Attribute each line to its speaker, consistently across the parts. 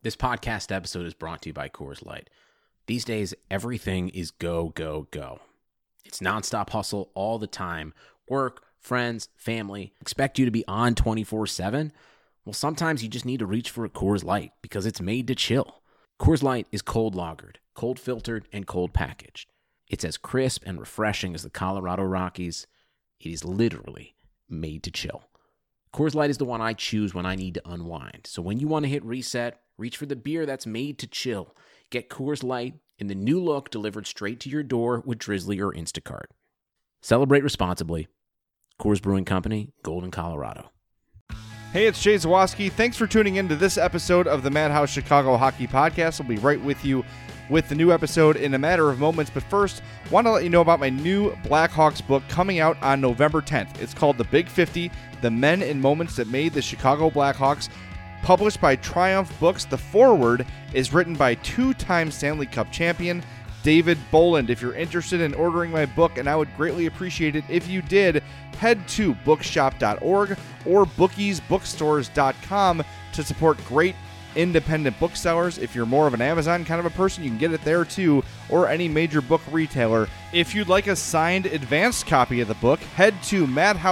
Speaker 1: This podcast episode is brought to you by Coors Light. These days, everything is go, go, go. It's nonstop hustle all the time. Work, friends, family, expect you to be on 24/7. Well, sometimes you just need to reach for a Coors Light because it's made to chill. Coors Light is cold lagered, cold filtered, and cold packaged. It's as crisp and refreshing as the Colorado Rockies. It is literally made to chill. Coors Light is the one I choose when I need to unwind. So when you want to hit reset, reach for the beer that's made to chill. Get Coors Light in the new look delivered straight to your door with Drizzly or Instacart. Celebrate responsibly. Coors Brewing Company, Golden, Colorado.
Speaker 2: Hey, it's Jay Zawaski. Thanks for tuning in to this episode of the Madhouse Chicago Hockey Podcast. I'll be right with you with the new episode in a matter of moments. But first, want to let you know about my new Blackhawks book coming out on November 10th. It's called The Big 50, The Men and Moments That Made the Chicago Blackhawks. Published by Triumph Books, the foreword is written by two-time Stanley Cup champion David Boland. If you're interested in ordering my book, and I would greatly appreciate it if you did, head to bookshop.org or bookiesbookstores.com to support great independent booksellers. If you're more of an Amazon kind of a person, you can get it there too, or any major book retailer. If you'd like a signed advanced copy of the book, head to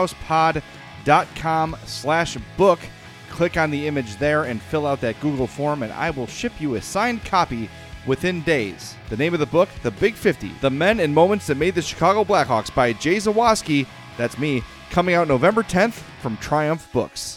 Speaker 2: madhousepod.com/book. Click on the image there and fill out that Google form, and I will ship you a signed copy within days. The name of the book, The Big 50, The Men and Moments That Made the Chicago Blackhawks by Jay Zawaski, that's me, coming out November 10th from Triumph Books.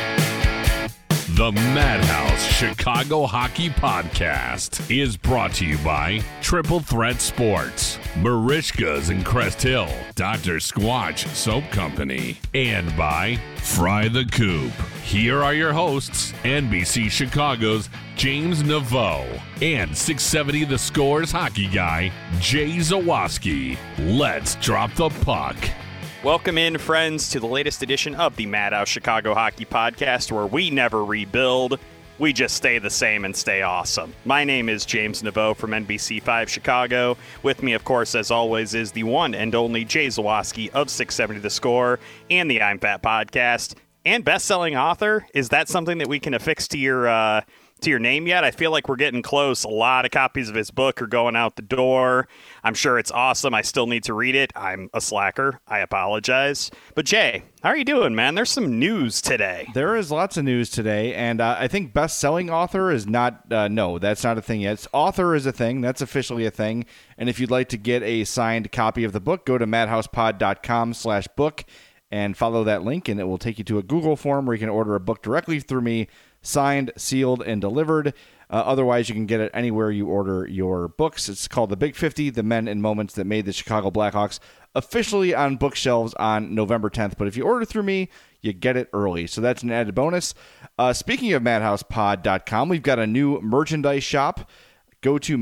Speaker 3: The Madhouse Chicago Hockey Podcast is brought to you by Triple Threat Sports, Marishka's in Crest Hill, Dr. Squatch Soap Company, and by Fry the Coop. Here are your hosts, NBC Chicago's James Naveau and 670 The Score's hockey guy, Jay Zawaski. Let's drop the puck.
Speaker 4: Welcome in, friends, to the latest edition of the Madhouse Chicago Hockey Podcast, where we never rebuild, we just stay the same and stay awesome. My name is James Naveau from NBC5 Chicago. With me, of course, as always, is the one and only Jay Zawaski of 670 The Score and the I'm Fat Podcast. And best-selling author, is that something that we can affix to your name yet? I feel like we're getting close. A lot of copies of his book are going out the door. I'm sure it's awesome. I still need to read it. I'm a slacker. I apologize. But Jay, how are you doing, man? There's some news today.
Speaker 2: There is lots of news today, and I think best-selling author is not, no, that's not a thing yet. It's author is a thing. That's officially a thing. And if you'd like to get a signed copy of the book, go to madhousepod.com/book and follow that link, and it will take you to a Google form where you can order a book directly through me, signed, sealed, and delivered. Otherwise, you can get it anywhere you order your books. It's called The Big 50, The Men and Moments That Made the Chicago Blackhawks, officially on bookshelves on November 10th. But if you order through me, you get it early. So that's an added bonus. Speaking of madhousepod.com, we've got a new merchandise shop. Go to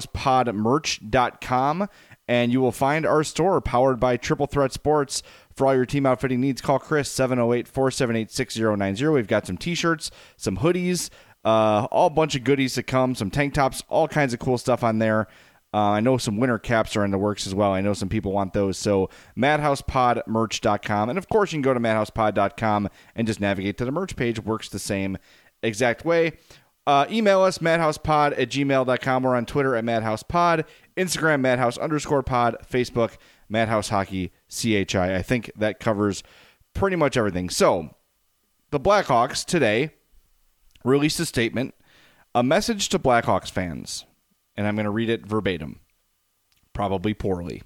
Speaker 2: madhousepodmerch.com, and you will find our store powered by Triple Threat Sports. For all your team outfitting needs, call Chris, 708-478-6090. We've got some t-shirts, some hoodies, all bunch of goodies to come, some tank tops, all kinds of cool stuff on there. I know some winter caps are in the works as well. I know some people want those. So madhousepodmerch.com. And, of course, you can go to madhousepod.com and just navigate to the merch page. Works the same exact way. Email us, madhousepod@gmail.com. We're on Twitter at madhousepod, Instagram, madhouse_pod, Facebook, Madhouse Hockey, CHI. I think that covers pretty much everything. So, the Blackhawks today released a statement, a message to Blackhawks fans, and I'm going to read it verbatim, probably poorly.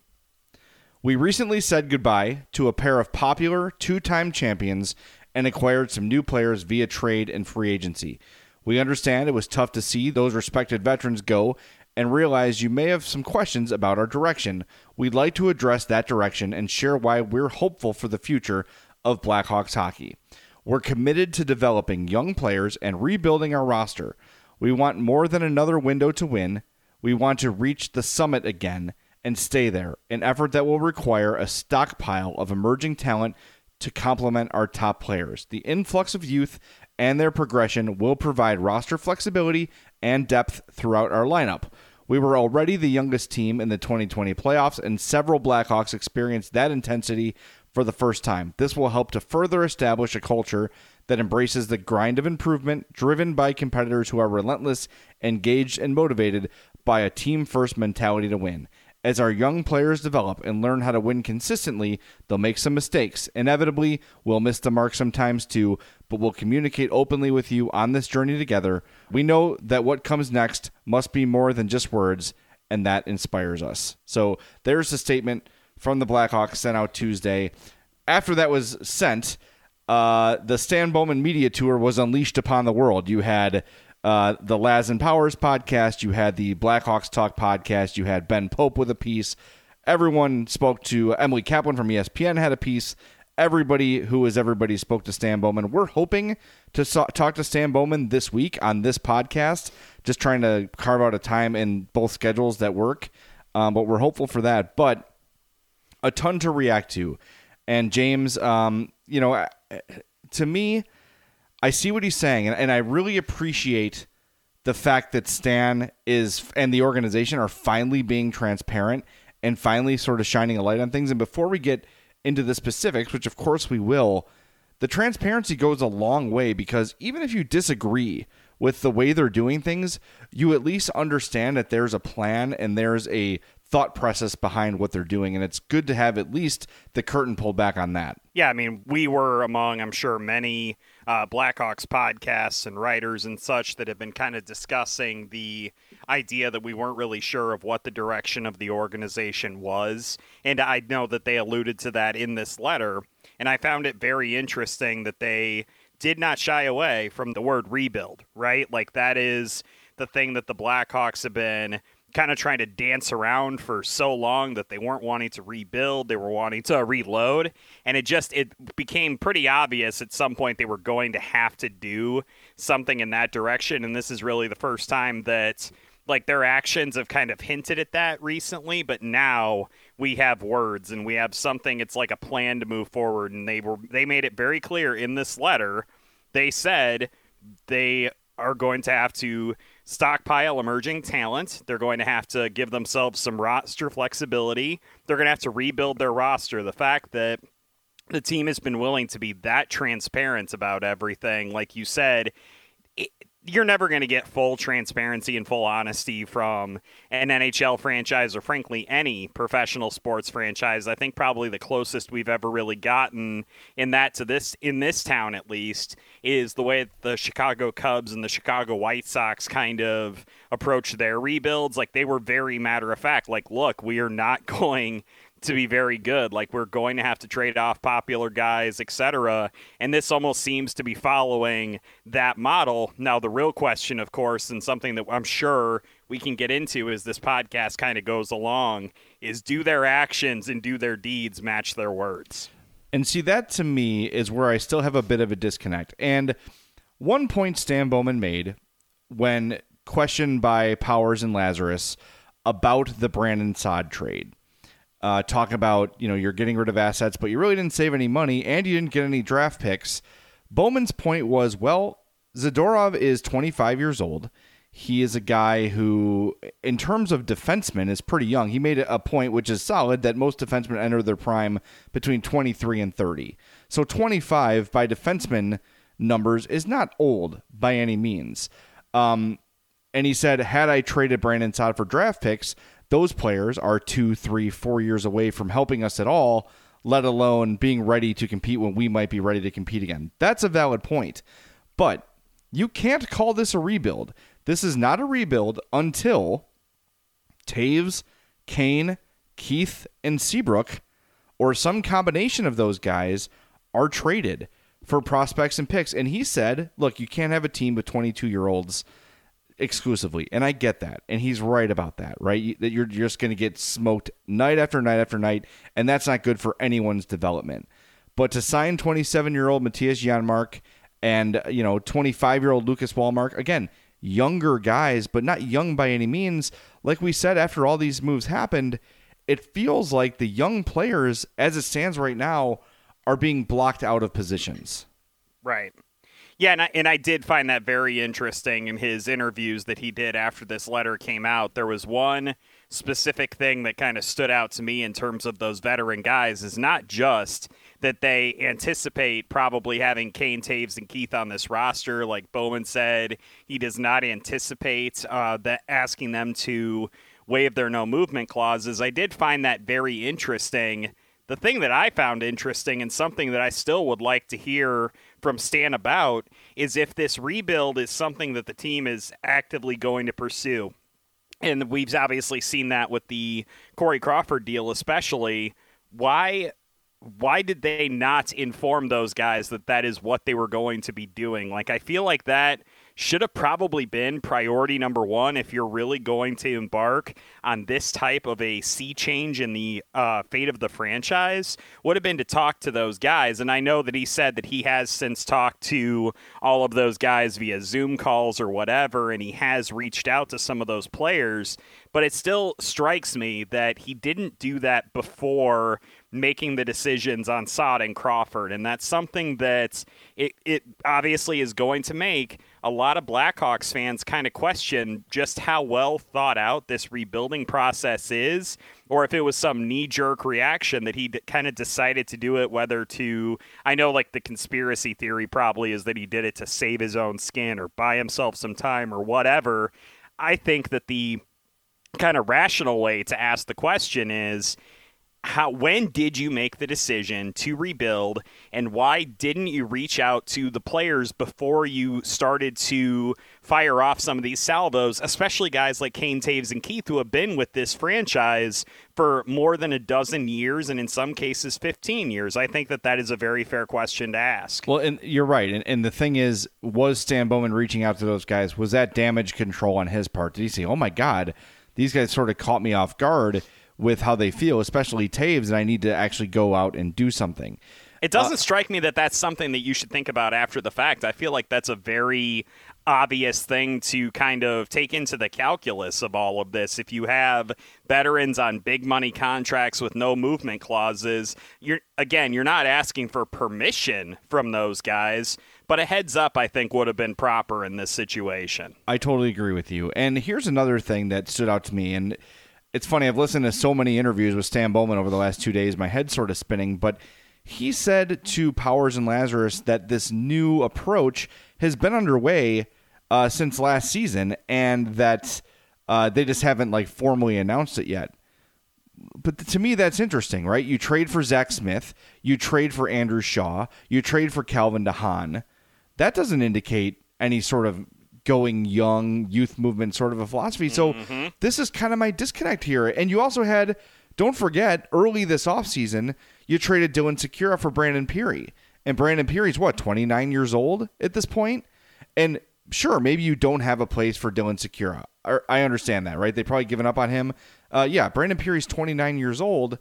Speaker 2: We recently said goodbye to a pair of popular two-time champions and acquired some new players via trade and free agency. We understand it was tough to see those respected veterans go and realize you may have some questions about our direction. We'd like to address that direction and share why we're hopeful for the future of Blackhawks hockey. We're committed to developing young players and rebuilding our roster. We want more than another window to win. We want to reach the summit again and stay there, an effort that will require a stockpile of emerging talent to complement our top players. The influx of youth and their progression will provide roster flexibility and depth throughout our lineup. We were already the youngest team in the 2020 playoffs, and several Blackhawks experienced that intensity for the first time. This will help to further establish a culture that embraces the grind of improvement, driven by competitors who are relentless, engaged, and motivated by a team-first mentality to win. As our young players develop and learn how to win consistently, they'll make some mistakes. Inevitably, we'll miss the mark sometimes too, but we'll communicate openly with you on this journey together. We know that what comes next must be more than just words, and that inspires us. So there's the statement from the Blackhawks sent out Tuesday. After that was sent, the Stan Bowman media tour was unleashed upon the world. You had the Laz and Powers podcast, you had the Blackhawks Talk podcast, you had Ben Pope with a piece. Everyone spoke to Emily Kaplan from ESPN had a piece. Everybody who is everybody spoke to Stan Bowman. We're hoping to talk to Stan Bowman this week on this podcast, just trying to carve out a time in both schedules that work. But we're hopeful for that. But a ton to react to. And James, to me, I see what he's saying, and I really appreciate the fact that Stan and the organization are finally being transparent and finally sort of shining a light on things. And before we get into the specifics, which of course we will, the transparency goes a long way, because even if you disagree with the way they're doing things, you at least understand that there's a plan and there's a thought process behind what they're doing, and it's good to have at least the curtain pulled back on that.
Speaker 4: Yeah, I mean, we were among, I'm sure, many Blackhawks podcasts and writers and such that have been kind of discussing the idea that we weren't really sure of what the direction of the organization was, and I know that they alluded to that in this letter, and I found it very interesting that they did not shy away from the word rebuild, right? Like, that is the thing that the Blackhawks have been kind of trying to dance around for so long, that they weren't wanting to rebuild, they were wanting to reload, and it became pretty obvious at some point they were going to have to do something in that direction. And this is really the first time that their actions have kind of hinted at that recently, but now we have words and we have something. It's like a plan to move forward, and they made it very clear in this letter. They said they are going to have to stockpile emerging talent. They're going to have to give themselves some roster flexibility. They're going to have to rebuild their roster. The fact that the team has been willing to be that transparent about everything, like you said, you're never going to get full transparency and full honesty from an NHL franchise, or frankly any professional sports franchise. I think probably the closest we've ever really gotten in this town at least, is the way the Chicago Cubs and the Chicago White Sox kind of approach their rebuilds. Like, they were very matter of fact, like, look, we are not going to be very good. Like, we're going to have to trade off popular guys, etc. And this almost seems to be following that model. Now, the real question, of course, and something that I'm sure we can get into as this podcast kind of goes along, is do their actions and do their deeds match their words?
Speaker 2: And see, that to me is where I still have a bit of a disconnect. And one point Stan Bowman made when questioned by Powers and Lazarus about the Brandon Saad trade, talk about, you're getting rid of assets, but you really didn't save any money and you didn't get any draft picks. Bowman's point was, well, Zadorov is 25 years old. He is a guy who, in terms of defensemen, is pretty young. He made a point, which is solid, that most defensemen enter their prime between 23 and 30. So 25 by defenseman numbers is not old by any means. And he said, had I traded Brandon Saad for draft picks, those players are 2, 3, 4 years away from helping us at all, let alone being ready to compete when we might be ready to compete again. That's a valid point. But you can't call this a rebuild. This is not a rebuild until Taves, Kane, Keith, and Seabrook, or some combination of those guys, are traded for prospects and picks. And he said, look, you can't have a team with 22-year-olds exclusively. And I get that. And he's right about that, right? That you're just going to get smoked night after night after night, and that's not good for anyone's development. But to sign 27-year-old Matthias Janmark and, 25-year-old Lucas Wallmark, again, younger guys, but not young by any means. Like we said, after all these moves happened, it feels like the young players, as it stands right now, are being blocked out of positions.
Speaker 4: Right. Yeah, and I did find that very interesting in his interviews that he did after this letter came out. There was one specific thing that kind of stood out to me in terms of those veteran guys, is not just that they anticipate probably having Kane, Taves, and Keith on this roster. Like Bowman said, he does not anticipate that asking them to waive their no movement clauses. I did find that very interesting. The thing that I found interesting and something that I still would like to hear from Stan about is if this rebuild is something that the team is actively going to pursue. And we've obviously seen that with the Corey Crawford deal especially. Why did they not inform those guys that that is what they were going to be doing? Like, I feel like that should have probably been priority number one if you're really going to embark on this type of a sea change in the fate of the franchise, would have been to talk to those guys. And I know that he said that he has since talked to all of those guys via Zoom calls or whatever, and he has reached out to some of those players. But it still strikes me that he didn't do that before making the decisions on Saad and Crawford. And that's something that it obviously is going to make a lot of Blackhawks fans kind of question just how well thought out this rebuilding process is, or if it was some knee-jerk reaction that he kind of decided to do it, whether to, I know like the conspiracy theory probably is that he did it to save his own skin or buy himself some time or whatever. I think that the kind of rational way to ask the question is, when did you make the decision to rebuild, and why didn't you reach out to the players before you started to fire off some of these salvos, especially guys like Kane, Taves, and Keith, who have been with this franchise for more than a dozen years, and in some cases 15 years? I think that is a very fair question to ask.
Speaker 2: Well, and you're right. And the thing is, was Stan Bowman reaching out to those guys? Was that damage control on his part? Did he say, oh my God, these guys sort of caught me off guard with how they feel, especially Taves, and I need to actually go out and do something?
Speaker 4: It doesn't strike me that that's something that you should think about after the fact. I feel like that's a very obvious thing to kind of take into the calculus of all of this. If you have veterans on big money contracts with no movement clauses, you're not asking for permission from those guys, but a heads up, I think, would have been proper in this situation.
Speaker 2: I totally agree with you. And here's another thing that stood out to me, and it's funny, I've listened to so many interviews with Stan Bowman over the last 2 days, my head's sort of spinning, but he said to Powers and Lazarus that this new approach has been underway since last season, and that they just haven't like formally announced it yet. But to me, that's interesting, right? You trade for Zach Smith, you trade for Andrew Shaw, you trade for Calvin DeHaan. That doesn't indicate any sort of going young youth movement sort of a philosophy. So this is kind of my disconnect here. And you also had, don't forget, early this offseason, you traded Dylan Sikura for Brandon Peary. And Brandon Peary's 29 years old at this point? And sure, maybe you don't have a place for Dylan Sikura. I understand that, right? They've probably given up on him. Brandon Peary's 29 years old,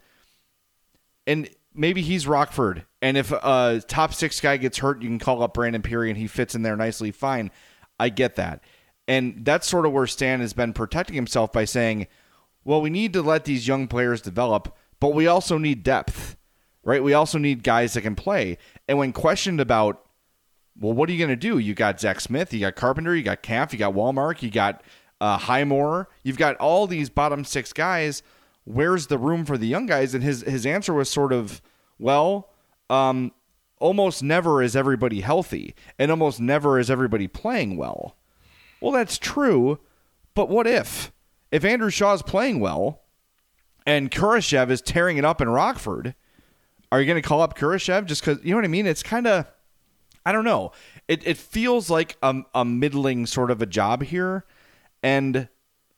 Speaker 2: and maybe he's Rockford. And if a top six guy gets hurt, you can call up Brandon Peary and he fits in there nicely fine. I get that. And that's sort of where Stan has been protecting himself by saying, well, we need to let these young players develop, but we also need depth, right? We also need guys that can play. And when questioned about, well, what are you going to do? You got Zach Smith, you got Carpenter, you got Kampf, you got Wallmark, you got Highmore. You've got all these bottom six guys. Where's the room for the young guys? And his answer was sort of, well, almost never is everybody healthy, and almost never is everybody playing well. Well, that's true, but what if? If Andrew Shaw's playing well and Kurashev is tearing it up in Rockford, are you going to call up Kurashev just because, you know what I mean? It's kind of, I don't know. It feels like a middling sort of a job here, and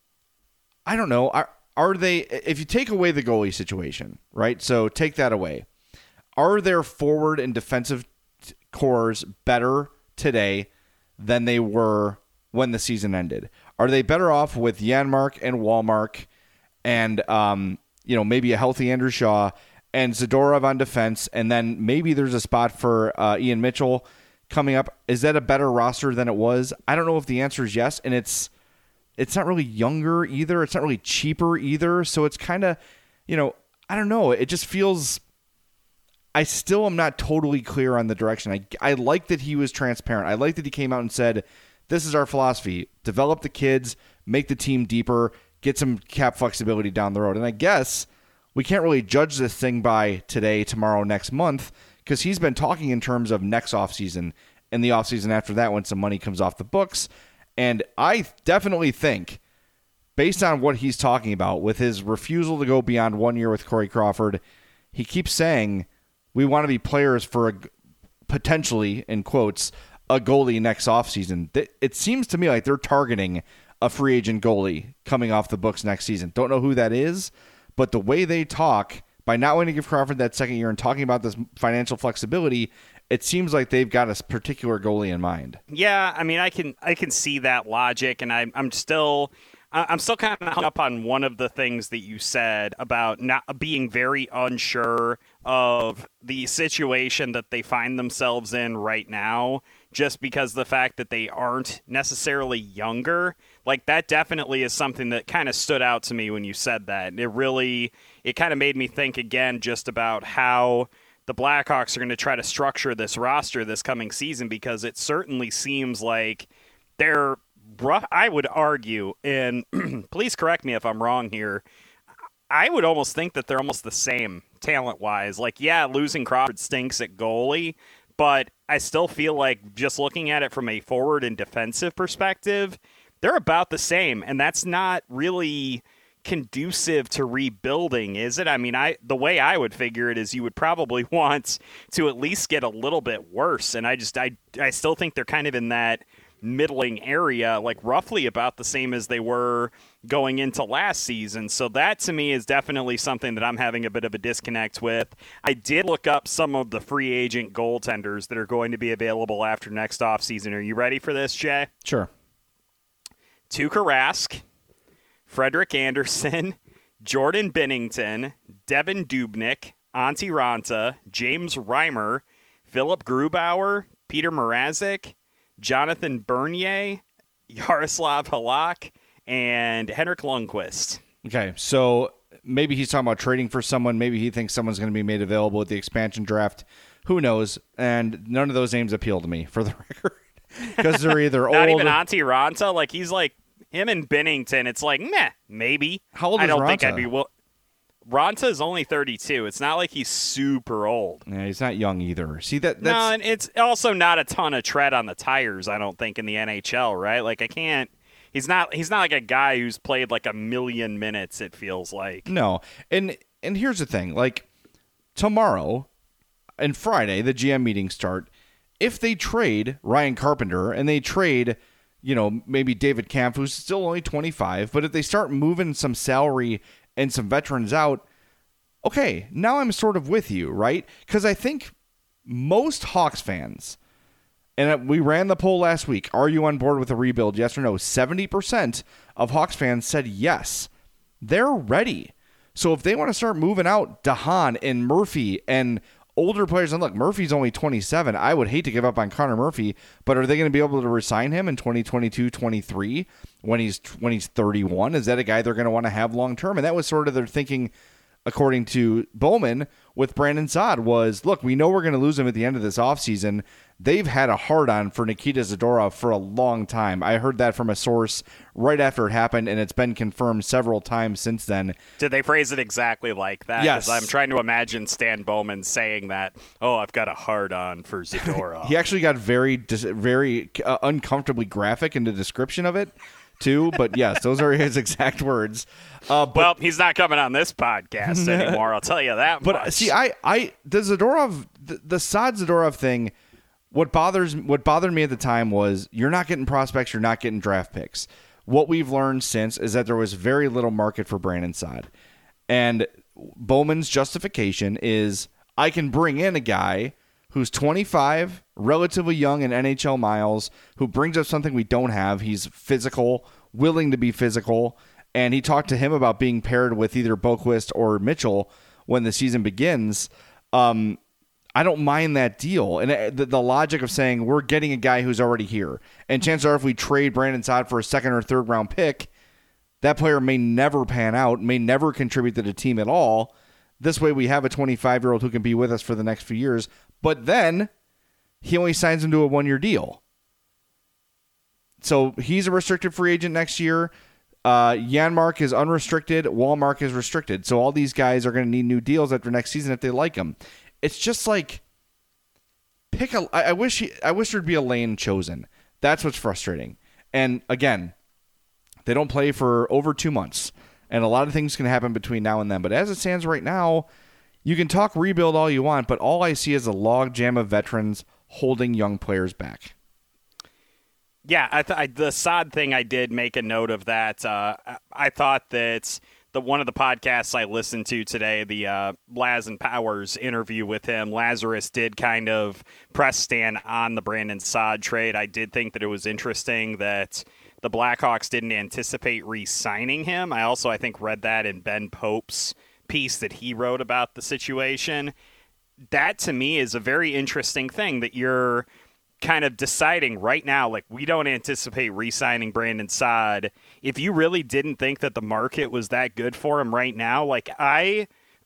Speaker 2: I don't know. Are they, if you take away the goalie situation, right? So take that away. Are their forward and defensive cores better today than they were when the season ended? Are they better off with Janmark and Wallmark and maybe a healthy Andrew Shaw and Zadorov on defense, and then maybe there's a spot for Ian Mitchell coming up? Is that a better roster than it was? I don't know if the answer is yes, and it's not really younger either. It's not really cheaper either. So it's kind of, I don't know. It just feels, I still am not totally clear on the direction. I like that he was transparent. I like that he came out and said, this is our philosophy. Develop the kids, make the team deeper, get some cap flexibility down the road. And I guess we can't really judge this thing by today, tomorrow, next month, because he's been talking in terms of next offseason and the offseason after that when some money comes off the books. And I definitely think, based on what he's talking about with his refusal to go beyond 1 year with Corey Crawford, he keeps saying we want to be players for potentially, in quotes, a goalie next offseason. It seems to me like they're targeting a free agent goalie coming off the books next season. Don't know who that is, but the way they talk, by not wanting to give Crawford that second year and talking about this financial flexibility, it seems like they've got a particular goalie in mind.
Speaker 4: Yeah, I mean, I can see that logic, and I'm still kind of hung up on one of the things that you said about not being very unsure of the situation that they find themselves in right now, just because the fact that they aren't necessarily younger. Like, that definitely is something that kind of stood out to me when you said that. It kind of made me think again just about how the Blackhawks are going to try to structure this roster this coming season, because it certainly seems like they're rough. I would argue, and please correct me if I'm wrong here, I would almost think that they're almost the same talent-wise. Like, yeah, losing Crawford stinks at goalie, but I still feel like, just looking at it from a forward and defensive perspective, they're about the same, and that's not really conducive to rebuilding, is it? I mean, the way I would figure it is you would probably want to at least get a little bit worse, and I still think they're kind of in that middling area, like roughly about the same as they were going into last season. So that to me is definitely something that I'm having a bit of a disconnect with. I did look up some of the free agent goaltenders that are going to be available after next offseason. Are you ready for this, Jay?
Speaker 2: Sure.
Speaker 4: Tuukka Rask, Frederik Andersen, Jordan Binnington, Devin Dubnyk, Antti Raanta, James Reimer, Philip Grubauer, Peter Mrazek, Jonathan Bernier, Yaroslav Halak, and Henrik Lundqvist.
Speaker 2: Okay, so maybe he's talking about trading for someone. Maybe he thinks someone's going to be made available at the expansion draft. Who knows? And none of those names appeal to me, for the record, because they're either
Speaker 4: Not
Speaker 2: old.
Speaker 4: even Antti Raanta. Like, he's like him and Binnington. It's like, meh, maybe.
Speaker 2: How old is
Speaker 4: I don't
Speaker 2: Raanta?
Speaker 4: think I'd be. Raanta is only 32. It's not like he's super old.
Speaker 2: Yeah, he's not young either. See, that's...
Speaker 4: No, and it's also not a ton of tread on the tires, I don't think, in the NHL, right? Like, he's not like a guy who's played like 1 million minutes, it feels like.
Speaker 2: No. And here's the thing. Like, tomorrow and Friday, the GM meetings start. If they trade Ryan Carpenter and they trade, maybe David Kampf, who's still only 25, but if they start moving some salary and some veterans out, okay, now I'm sort of with you, right? Because I think most Hawks fans, and we ran the poll last week, are you on board with a rebuild, yes or no? 70% of Hawks fans said yes. They're ready. So if they want to start moving out DeHaan and Murphy and older players, and look, Murphy's only 27. I would hate to give up on Connor Murphy, but are they going to be able to resign him in 2022, 23 when he's 31? Is that a guy they're going to want to have long term? And that was sort of their thinking, according to Bowman, with Brandon Saad, was, look, we know we're going to lose him at the end of this offseason. They've had a hard-on for Nikita Zadorov for a long time. I heard that from a source right after it happened, and it's been confirmed several times since then.
Speaker 4: Did they phrase it exactly like that?
Speaker 2: Yes.
Speaker 4: 'Cause I'm trying to imagine Stan Bowman saying that, I've got a hard-on for Zadorov.
Speaker 2: He actually got very uncomfortably graphic in the description of it, too. But yes, those are his exact words.
Speaker 4: Well, he's not coming on this podcast anymore, I'll tell you that
Speaker 2: But
Speaker 4: much.
Speaker 2: see, the Zadorov, the Saad Zadorov thing, what bothered me at the time was you're not getting prospects, you're not getting draft picks. What we've learned since is that there was very little market for Brandon Saad. And Bowman's justification is, I can bring in a guy who's 25, relatively young in NHL miles, who brings up something we don't have. He's physical, willing to be physical, and he talked to him about being paired with either Boquist or Mitchell when the season begins. I don't mind that deal. And the logic of saying we're getting a guy who's already here. And chances are if we trade Brandon Saad for a second or third round pick, that player may never pan out, may never contribute to the team at all. This way we have a 25-year-old who can be with us for the next few years. But then he only signs him to a 1-year deal. So he's a restricted free agent next year. Janmark is unrestricted. Wallmark is restricted. So all these guys are going to need new deals after next season if they like them. It's just like, I wish there'd be a lane chosen. That's what's frustrating. And again, they don't play for over 2 months, and a lot of things can happen between now and then. But as it stands right now, you can talk rebuild all you want, but all I see is a log jam of veterans holding young players back.
Speaker 4: Yeah, the Saad thing, I did make a note of that. I thought that one of the podcasts I listened to today, the Laz and Powers interview with him, Lazarus did kind of press Stan on the Brandon Saad trade. I did think that it was interesting that the Blackhawks didn't anticipate re-signing him. I think, read that in Ben Pope's piece that he wrote about the situation. That, to me, is a very interesting thing that you're kind of deciding right now, like, we don't anticipate re-signing Brandon Saad. If you really didn't think that the market was that good for him right now, like, I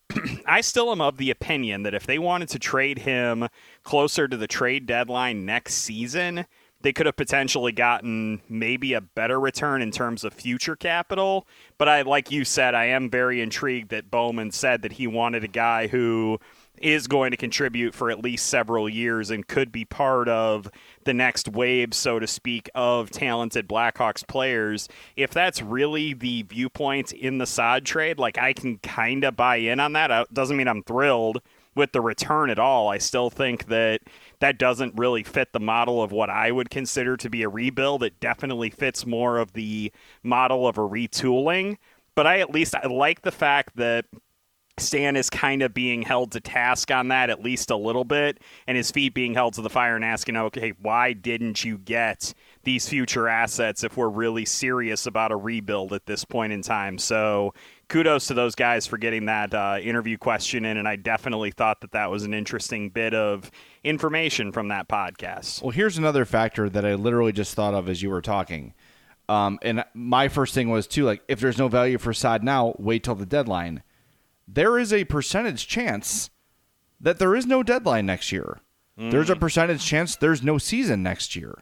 Speaker 4: still am of the opinion that if they wanted to trade him closer to the trade deadline next season, they could have potentially gotten maybe a better return in terms of future capital. But like you said, I am very intrigued that Bowman said that he wanted a guy who is going to contribute for at least several years and could be part of the next wave, so to speak, of talented Blackhawks players. If that's really the viewpoint in the Saad trade, like, I can kind of buy in on that. It doesn't mean I'm thrilled with the return at all. I still think that doesn't really fit the model of what I would consider to be a rebuild. It definitely fits more of the model of a retooling. But I like the fact that Stan is kind of being held to task on that at least a little bit, and his feet being held to the fire and asking, okay, why didn't you get these future assets if we're really serious about a rebuild at this point in time? So kudos to those guys for getting that interview question in, and I definitely thought that was an interesting bit of information from that podcast.
Speaker 2: Well, here's another factor that I literally just thought of as you were talking. And my first thing was, too, like, if there's no value for Saad now, wait till the deadline. There is a percentage chance that there is no deadline next year. There's a percentage chance there's no season next year.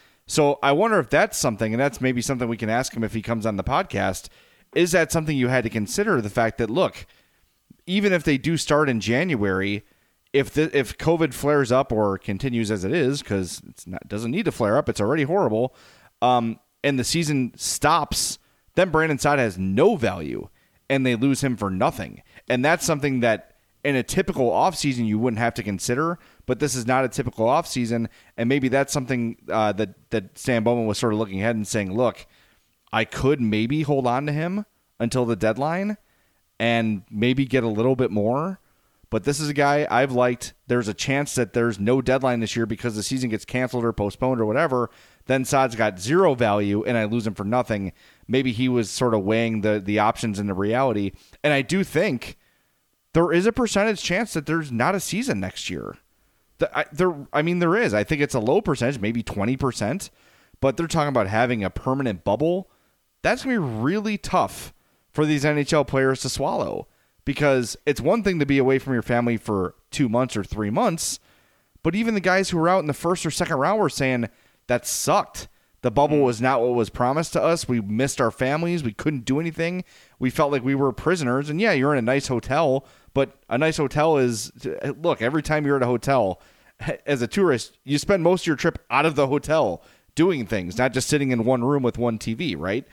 Speaker 2: So I wonder if that's something, and that's maybe something we can ask him if he comes on the podcast. Is that something you had to consider? The fact that, look, even if they do start in January, if COVID flares up or continues as it is, because it doesn't need to flare up, it's already horrible, and the season stops, then Brandon Saad has no value, and they lose him for nothing. And that's something that in a typical offseason you wouldn't have to consider, but this is not a typical offseason, and maybe that's something that Stan Bowman was sort of looking ahead and saying, look, I could maybe hold on to him until the deadline and maybe get a little bit more, but this is a guy I've liked. There's a chance that there's no deadline this year because the season gets canceled or postponed or whatever. Then Saad's got zero value, and I lose him for nothing. Maybe he was sort of weighing the options into reality. And I do think there is a percentage chance that there's not a season next year. There is. I think it's a low percentage, maybe 20%. But they're talking about having a permanent bubble. That's going to be really tough for these NHL players to swallow. Because it's one thing to be away from your family for 2 months or 3 months. But even the guys who were out in the first or second round were saying, that sucked. The bubble was not what was promised to us. We missed our families. We couldn't do anything. We felt like we were prisoners. And yeah, you're in a nice hotel, but a nice hotel is, look, every time you're at a hotel, as a tourist, you spend most of your trip out of the hotel doing things, not just sitting in one room with one TV, right?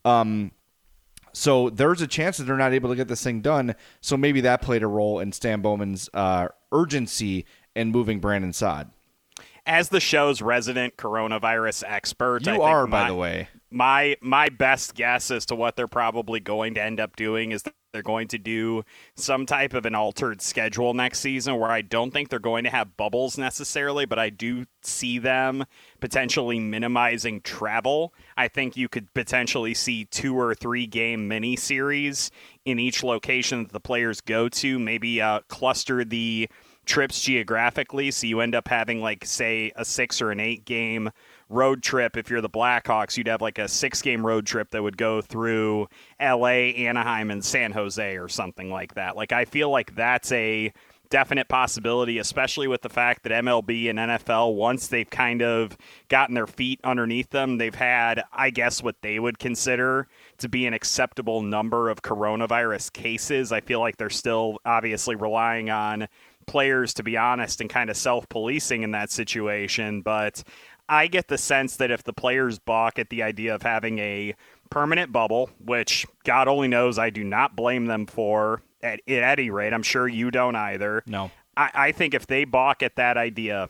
Speaker 2: So there's a chance that they're not able to get this thing done. So maybe that played a role in Stan Bowman's urgency in moving Brandon Saad.
Speaker 4: As the show's resident coronavirus expert,
Speaker 2: by the way.
Speaker 4: My best guess as to what they're probably going to end up doing is that they're going to do some type of an altered schedule next season where I don't think they're going to have bubbles necessarily, but I do see them potentially minimizing travel. I think you could potentially see 2 or 3 game mini-series in each location that the players go to, maybe cluster the trips geographically, so you end up having, like, say, a 6 or an 8 game road trip. If you're the Blackhawks, you'd have like a 6-game road trip that would go through LA, Anaheim, and San Jose or something like that. Like, I feel like that's a definite possibility, especially with the fact that MLB and NFL, once they've kind of gotten their feet underneath them, they've had, I guess, what they would consider to be an acceptable number of coronavirus cases. I feel like they're still obviously relying on players, to be honest, and kind of self-policing in that situation. But I get the sense that if the players balk at the idea of having a permanent bubble, which God only knows I do not blame them for at any rate, I'm sure you don't either.
Speaker 2: No.
Speaker 4: I think if they balk at that idea,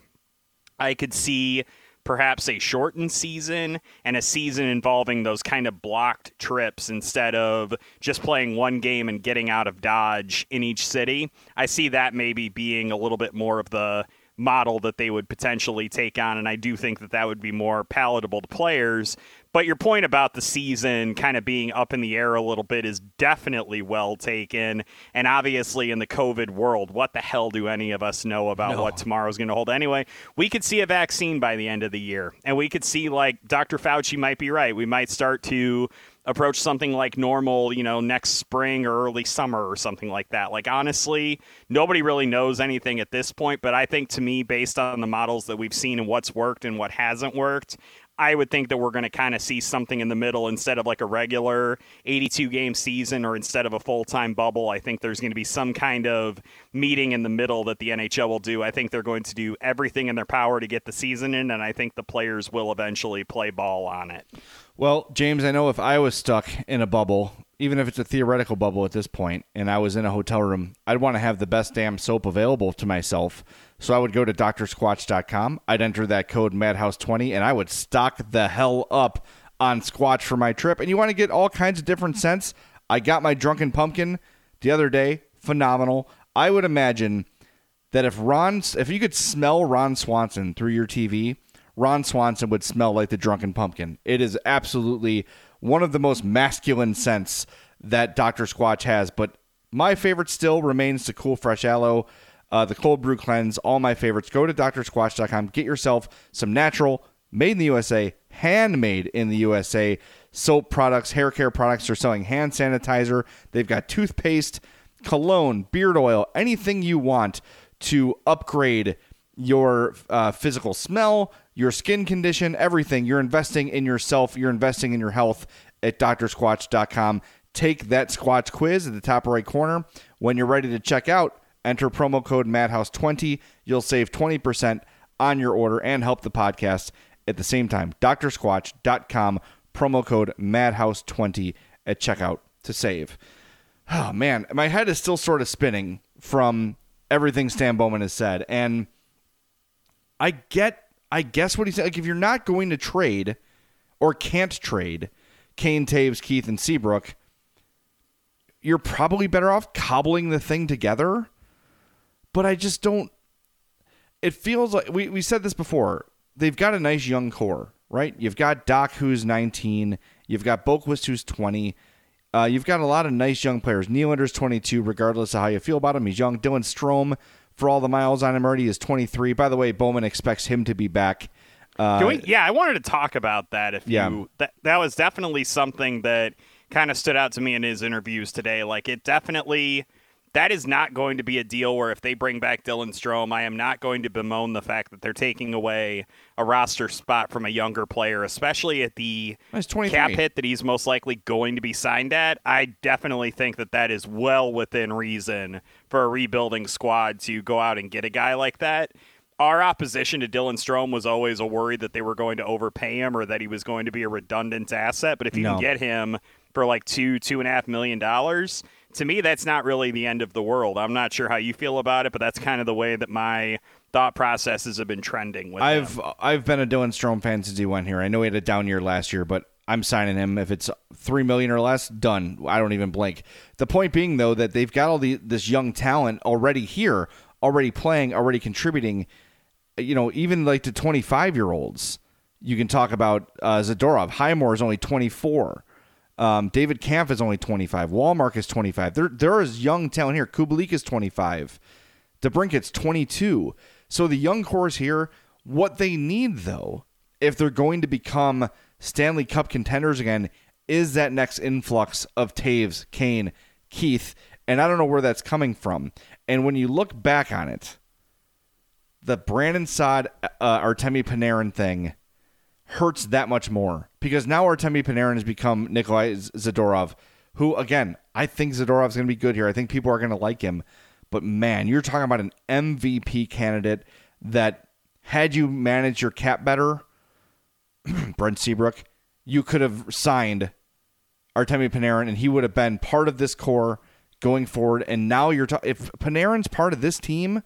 Speaker 4: I could see perhaps a shortened season and a season involving those kind of blocked trips instead of just playing one game and getting out of Dodge in each city. I see that maybe being a little bit more of the model that they would potentially take on, and I do think that that would be more palatable to players. But your point about the season kind of being up in the air a little bit is definitely well taken. And obviously in the COVID world, what the hell do any of us know about what tomorrow's going to hold anyway? We could see a vaccine by the end of the year, and we could see, like, Dr. Fauci might be right. We might start to approach something like normal, next spring or early summer or something like that. Like, honestly, nobody really knows anything at this point, but I think, to me, based on the models that we've seen and what's worked and what hasn't worked, I would think that we're going to kind of see something in the middle instead of like a regular 82-game season, or instead of a full-time bubble. I think there's going to be some kind of meeting in the middle that the NHL will do. I think they're going to do everything in their power to get the season in, and I think the players will eventually play ball on it.
Speaker 2: Well, James, I know if I was stuck in a bubble, even if it's a theoretical bubble at this point, and I was in a hotel room, I'd want to have the best damn soap available to myself. So I would go to drsquatch.com. I'd enter that code MADHOUSE20, and I would stock the hell up on Squatch for my trip. And you want to get all kinds of different scents? I got my Drunken Pumpkin the other day. Phenomenal. I would imagine that if you could smell Ron Swanson through your TV, Ron Swanson would smell like the Drunken Pumpkin. It is absolutely one of the most masculine scents that Dr. Squatch has. But my favorite still remains the Cool Fresh Aloe, the Cold Brew Cleanse, all my favorites. Go to drsquatch.com. Get yourself some natural, made in the USA, handmade in the USA soap products, hair care products. They're selling hand sanitizer. They've got toothpaste, cologne, beard oil, anything you want to upgrade your physical smell, your skin condition, everything. You're investing in yourself. You're investing in your health at drsquatch.com. Take that Squatch quiz at the top right corner. When you're ready to check out, enter promo code MADHOUSE20. You'll save 20% on your order and help the podcast at the same time. drsquatch.com, promo code MADHOUSE20 at checkout to save. Oh, man, my head is still sort of spinning from everything Stan Bowman has said. And I guess what he said, like, if you're not going to trade or can't trade Kane, Taves, Keith, and Seabrook, you're probably better off cobbling the thing together. But I just don't. It feels like we said this before. They've got a nice young core, right? You've got Doc, who's 19. You've got Boquist, who's 20. You've got a lot of nice young players. Nylander's 22, regardless of how you feel about him. He's young. Dylan Strome, for all the miles on him already, is 23. By the way, Bowman expects him to be back.
Speaker 4: I wanted to talk about that. That was definitely something that kind of stood out to me in his interviews today. Like, it definitely, that is not going to be a deal where if they bring back Dylan Strome, I am not going to bemoan the fact that they're taking away a roster spot from a younger player, especially at the cap hit that he's most likely going to be signed at. I definitely think that that is well within reason for a rebuilding squad to go out and get a guy like that. Our opposition to Dylan Strome was always a worry that they were going to overpay him or that he was going to be a redundant asset. But if you can get him for like $2.5 million, to me, that's not really the end of the world. I'm not sure how you feel about it, but that's kind of the way that my thought processes have been trending with him.
Speaker 2: I've been a Dylan Strome fan since he went here. I know he had a down year last year, but I'm signing him. If it's $3 million or less, done. I don't even blink. The point being, though, that they've got all this young talent already here, already playing, already contributing. Even like to 25-year-olds. You can talk about Zadorov. Highmore is only 24. David Kampf is only 25. Wallmark is 25. There is young talent here. Kubalik is 25. DeBrincat's 22. So the young core is here. What they need, though, if they're going to become Stanley Cup contenders again, is that next influx of Taves, Kane, Keith, and I don't know where that's coming from. And when you look back on it, the Brandon Saad, Artemi Panarin thing hurts that much more because now Artemi Panarin has become Nikolai Zadorov, who, again, I think Zadorov's going to be good here. I think people are going to like him. But man, you're talking about an MVP candidate that had you managed your cap better, Brent Seabrook, you could have signed Artemi Panarin and he would have been part of this core going forward. And now if Panarin's part of this team,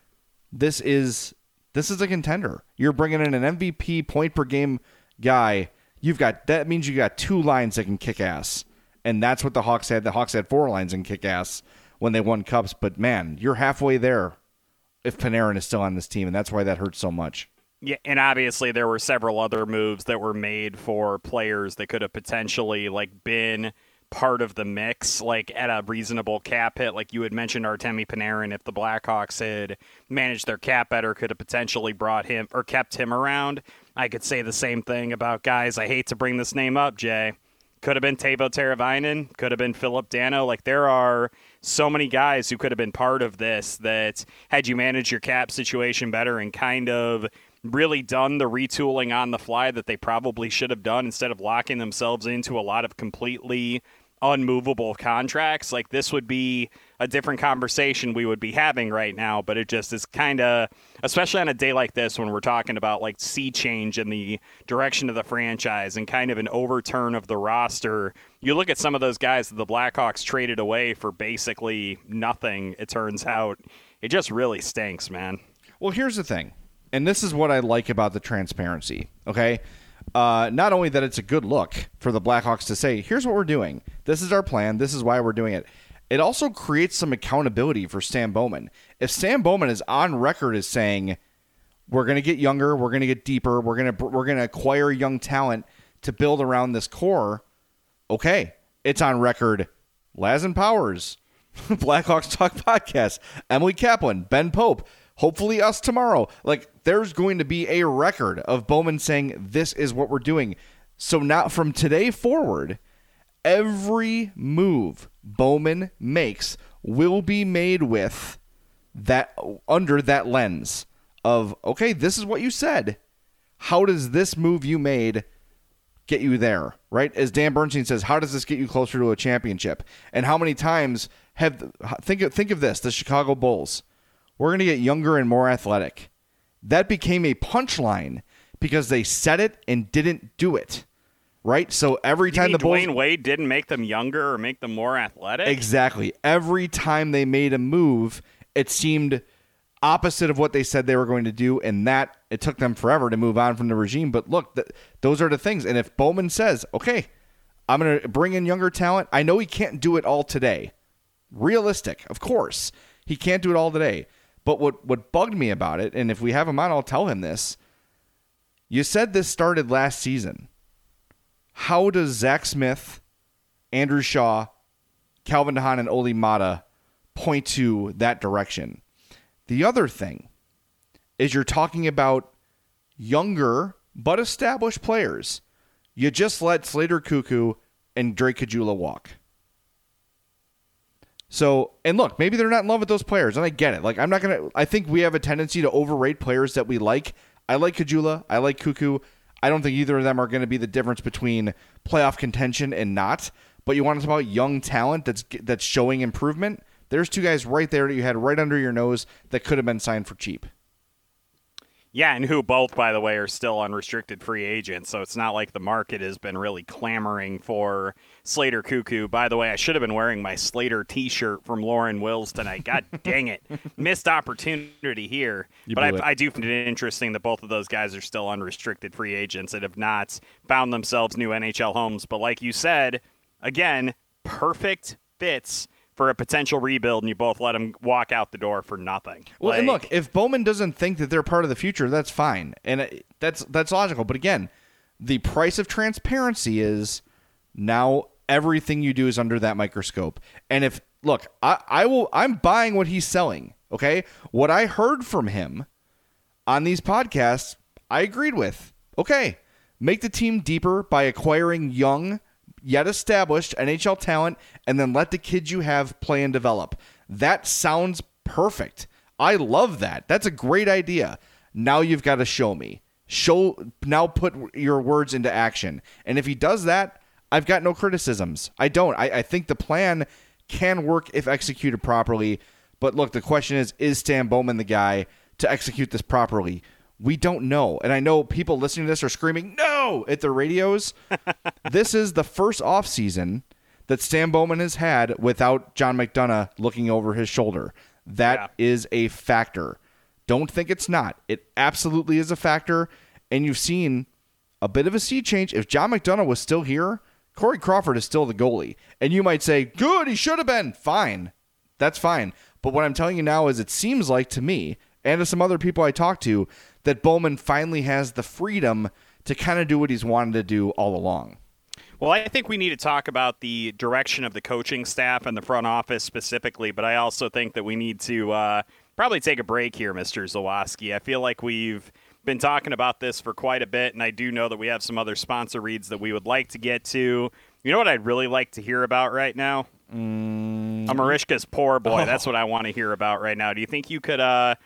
Speaker 2: this is a contender. You're bringing in an MVP point per game guy. That means you got 2 lines that can kick ass. And that's what the Hawks had. The Hawks had 4 lines and kick ass when they won cups. But man, you're halfway there if Panarin is still on this team, and that's why that hurts so much.
Speaker 4: Yeah, and obviously there were several other moves that were made for players that could have potentially been part of the mix, at a reasonable cap hit. Like you had mentioned, Artemi Panarin, if the Blackhawks had managed their cap better, could have potentially brought him or kept him around. I could say the same thing about guys. I hate to bring this name up, Jay. Could have been Teuvo Teravainen, could have been Philip Dano. There are so many guys who could have been part of this that had you managed your cap situation better and kind of really done the retooling on the fly that they probably should have done instead of locking themselves into a lot of completely unmovable contracts. This would be a different conversation we would be having right now, but it just is kind of, especially on a day like this when we're talking about sea change in the direction of the franchise and kind of an overturn of the roster. You look at some of those guys that the Blackhawks traded away for basically nothing, it turns out. It just really stinks, man.
Speaker 2: Well, here's the thing, and this is what I like about the transparency, okay? Not only that it's a good look for the Blackhawks to say, here's what we're doing. This is our plan. This is why we're doing it. It also creates some accountability for Stan Bowman. If Stan Bowman is on record as saying, we're going to get younger, we're going to get deeper, we're going to acquire young talent to build around this core, okay, it's on record. Laz and Powers, Blackhawks Talk Podcast, Emily Kaplan, Ben Pope, hopefully us tomorrow. There's going to be a record of Bowman saying this is what we're doing. So now from today forward, every move Bowman makes will be made with that under that lens of, okay, this is what you said. How does this move you made get you there, right? As Dan Bernstein says, how does this get you closer to a championship? And how many times think of this, the Chicago Bulls. We're going to get younger and more athletic. That became a punchline because they said it and didn't do it, right? So every time the Bulls...
Speaker 4: Dwayne Wade didn't make them younger or make them more athletic?
Speaker 2: Exactly. Every time they made a move, it seemed opposite of what they said they were going to do, and that it took them forever to move on from the regime. But look, those are the things. And if Bowman says, okay, I'm going to bring in younger talent, I know he can't do it all today. Realistic, of course. He can't do it all today. But what bugged me about it, and if we have him on, I'll tell him this. You said this started last season. How does Zach Smith, Andrew Shaw, Calvin DeHaan, and Oli Mata point to that direction? The other thing is you're talking about younger but established players. You just let Slater Cuckoo and Drake Caggiula walk. So, and look, maybe they're not in love with those players, and I get it. I think we have a tendency to overrate players that we like. I like Caggiula. I like Cuckoo. I don't think either of them are going to be the difference between playoff contention and not. But you want to talk about young talent that's showing improvement? There's 2 guys right there that you had right under your nose that could have been signed for cheap.
Speaker 4: Yeah, and who both, by the way, are still unrestricted free agents, so it's not like the market has been really clamoring for Slater Cuckoo. By the way, I should have been wearing my Slater t-shirt from Lauren Wills tonight. God dang it. Missed opportunity here. But I do find it interesting that both of those guys are still unrestricted free agents that have not found themselves new NHL homes. But like you said, again, perfect fits for a potential rebuild, and you both let them walk out the door for nothing.
Speaker 2: Well, and look, if Bowman doesn't think that they're part of the future, that's fine. And that's logical. But again, the price of transparency is now everything you do is under that microscope. And if, look, I'm buying what he's selling, okay? What I heard from him on these podcasts, I agreed with. Okay, make the team deeper by acquiring young, yet established NHL talent, and then let the kids you have play and develop. That sounds perfect. I love that. That's a great idea. Now you've got to show me. Now put your words into action. And if he does that, I've got no criticisms. I don't. I think the plan can work if executed properly. But look, the question is Stan Bowman the guy to execute this properly? We don't know. And I know people listening to this are screaming, no, at their radios. This is the first offseason that Stan Bowman has had without John McDonough looking over his shoulder. That is a factor. Don't think it's not. It absolutely is a factor. And you've seen a bit of a sea change. If John McDonough was still here, Corey Crawford is still the goalie. And you might say, good, he should have been. Fine. That's fine. But what I'm telling you now is it seems like to me and to some other people I talked to that Bowman finally has the freedom to kind of do what he's wanted to do all along.
Speaker 4: Well, I think we need to talk about the direction of the coaching staff and the front office specifically, but I also think that we need to probably take a break here, Mr. Zawoski. I feel like we've been talking about this for quite a bit, and I do know that we have some other sponsor reads that we would like to get to. You know what I'd really like to hear about right now? Marishka's poor boy. Oh. That's what I want to hear about right now. Do you think you could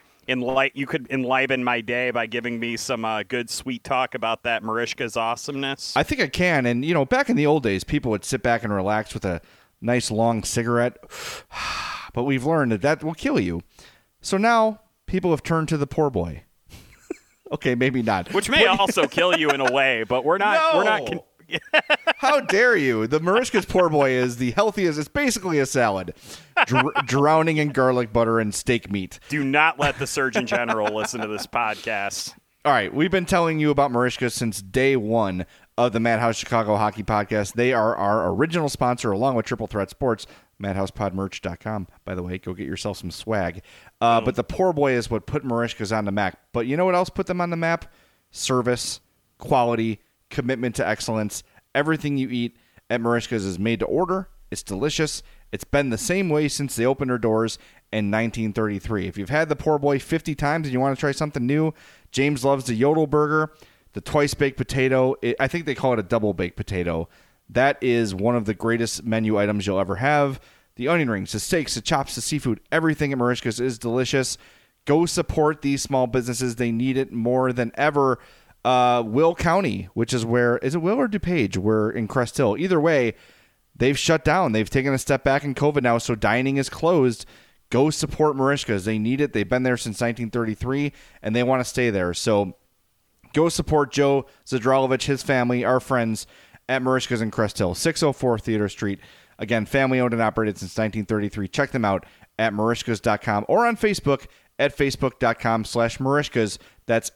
Speaker 4: enliven my day by giving me some good, sweet talk about that Marishka's awesomeness?
Speaker 2: I think I can. And, you know, back in the old days, people would sit back and relax with a nice, long cigarette. But we've learned that will kill you. So now people have turned to the poor boy. Okay, maybe not.
Speaker 4: Which may also kill you in a way, but we're not.
Speaker 2: No.
Speaker 4: We're not.
Speaker 2: How dare you? The Marishka's poor boy is the healthiest. It's basically a salad, drowning in garlic butter and steak meat.
Speaker 4: Do not let the Surgeon General listen to this podcast.
Speaker 2: All right, we've been telling you about Marishka since day one of the Madhouse Chicago Hockey Podcast. They are our original sponsor, along with Triple Threat Sports. MadhousePodMerch.com. By the way, go get yourself some swag. But the poor boy is what put Marishka's on the map. But you know what else put them on the map? Service, quality, commitment to excellence. Everything you eat at Marishka's is made to order. It's delicious. It's been the same way since they opened their doors in 1933. If you've had the poor boy 50 times and you want to try something new, James loves the Yodel Burger, the twice-baked potato. I think they call it a double-baked potato. That is one of the greatest menu items you'll ever have. The onion rings, the steaks, the chops, the seafood, everything at Marishka's is delicious. Go support these small businesses. They need it more than ever. Will County, which is where, is it Will or DuPage? We're in Crest Hill. Either way, they've shut down. They've taken a step back in COVID now, so dining is closed. Go support Marishka's. They need it. They've been there since 1933, and they want to stay there. So go support Joe Zadralovich, his family, our friends at Marishka's in Crest Hill, 604 Theater Street. Again, family-owned and operated since 1933. Check them out at Marishkas.com or on Facebook at Facebook.com/Marishkas. That's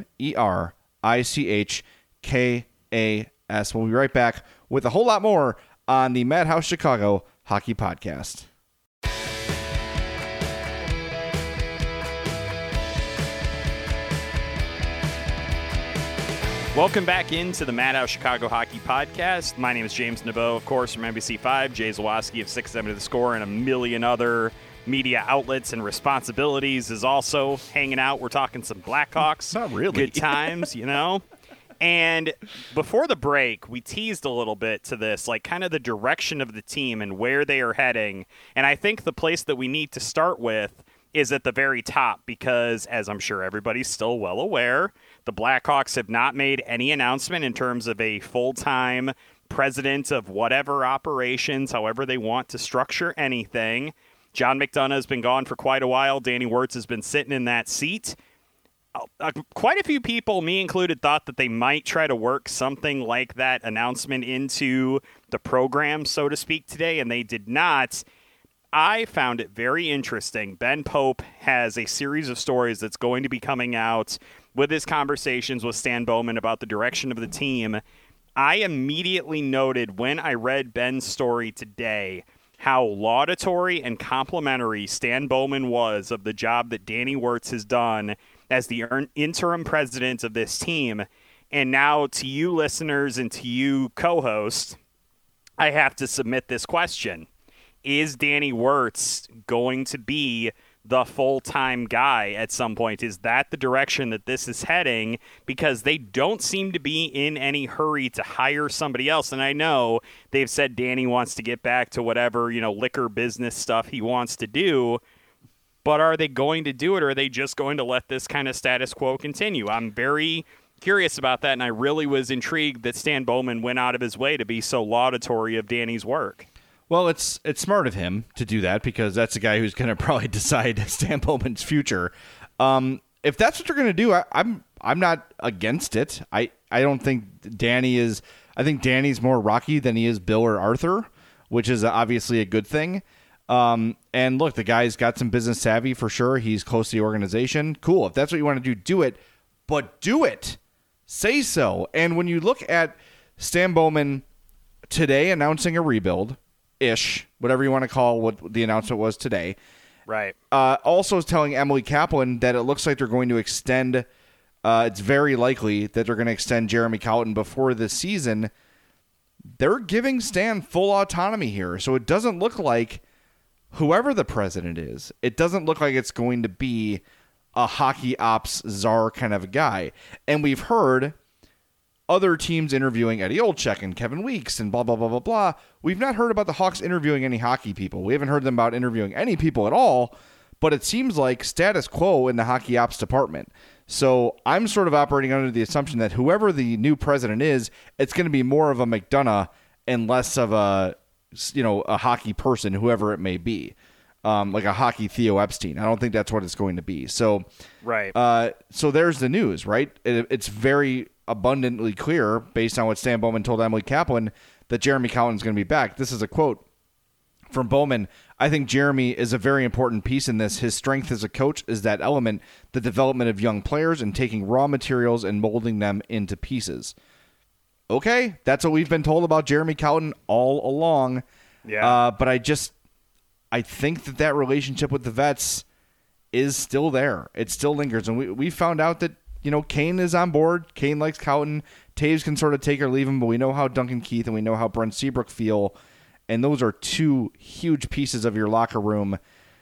Speaker 2: MERICHKAS. We'll be right back with a whole lot more on the Madhouse Chicago Hockey Podcast.
Speaker 4: Welcome back into the Madhouse Chicago Hockey Podcast. My name is James Naveau, of course, from NBC5. Jay Zawoski of 670 The Score and a million other media outlets and responsibilities is also hanging out. We're talking some Blackhawks.
Speaker 2: Not really.
Speaker 4: Good times, you know. And before the break, we teased a little bit to this, like kind of the direction of the team and where they are heading. And I think the place that we need to start with is at the very top because, as I'm sure everybody's still well aware, the Blackhawks have not made any announcement in terms of a full-time president of whatever operations, however they want to structure anything. John McDonough has been gone for quite a while. Danny Wirtz has been sitting in that seat. Quite a few people, me included, thought that they might try to work something like that announcement into the program, so to speak, today, and they did not. I found it very interesting. Ben Pope has a series of stories that's going to be coming out with his conversations with Stan Bowman about the direction of the team. I immediately noted when I read Ben's story today how laudatory and complimentary Stan Bowman was of the job that Danny Wirtz has done as the interim president of this team. And now to you listeners and to you co-hosts, I have to submit this question. Is Danny Wirtz going to be the full-time guy at some point? Is that the direction that this is heading? Because they don't seem to be in any hurry to hire somebody else. And I know they've said Danny wants to get back to whatever, liquor business stuff he wants to do. But are they going to do it, or are they just going to let this kind of status quo continue? I'm very curious about that, and I really was intrigued that Stan Bowman went out of his way to be so laudatory of Danny's work.
Speaker 2: Well, it's smart of him to do that because that's the guy who's going to probably decide Stan Bowman's future. If that's what they're going to do, I'm not against it. I don't think Danny is. I think Danny's more Rocky than he is Bill or Arthur, which is obviously a good thing. And look, the guy's got some business savvy for sure. He's close to the organization. Cool. If that's what you want to do it. But do it. Say so. And when you look at Stan Bowman today announcing a rebuild-ish, whatever you want to call what the announcement was today.
Speaker 4: Right.
Speaker 2: Also telling Emily Kaplan that it looks like they're going to extend, it's very likely that they're going to extend Jeremy Colliton before this season. They're giving Stan full autonomy here. So it doesn't look like whoever the president is, it doesn't look like it's going to be a hockey ops czar kind of a guy. And we've heard other teams interviewing Eddie Olczyk and Kevin Weeks and blah, blah, blah, blah, blah. We've not heard about the Hawks interviewing any hockey people. We haven't heard them about interviewing any people at all, but it seems like status quo in the hockey ops department. So I'm sort of operating under the assumption that whoever the new president is, it's going to be more of a McDonough and less of a hockey person, whoever it may be. Like a hockey Theo Epstein. I don't think that's what it's going to be. So,
Speaker 4: right.
Speaker 2: So there's the news, right? It's very abundantly clear, based on what Stan Bowman told Emily Kaplan, that Jeremy Colliton is going to be back. This is a quote from Bowman. I think Jeremy is a very important piece in this. His strength as a coach is that element, the development of young players and taking raw materials and molding them into pieces. Okay, that's what we've been told about Jeremy Colliton all along.
Speaker 4: Yeah.
Speaker 2: But I think that relationship with the vets is still there. It still lingers. And we found out that, Kane is on board. Kane likes Colliton. Taves can sort of take or leave him, but we know how Duncan Keith and we know how Brent Seabrook feel. And those are two huge pieces of your locker room.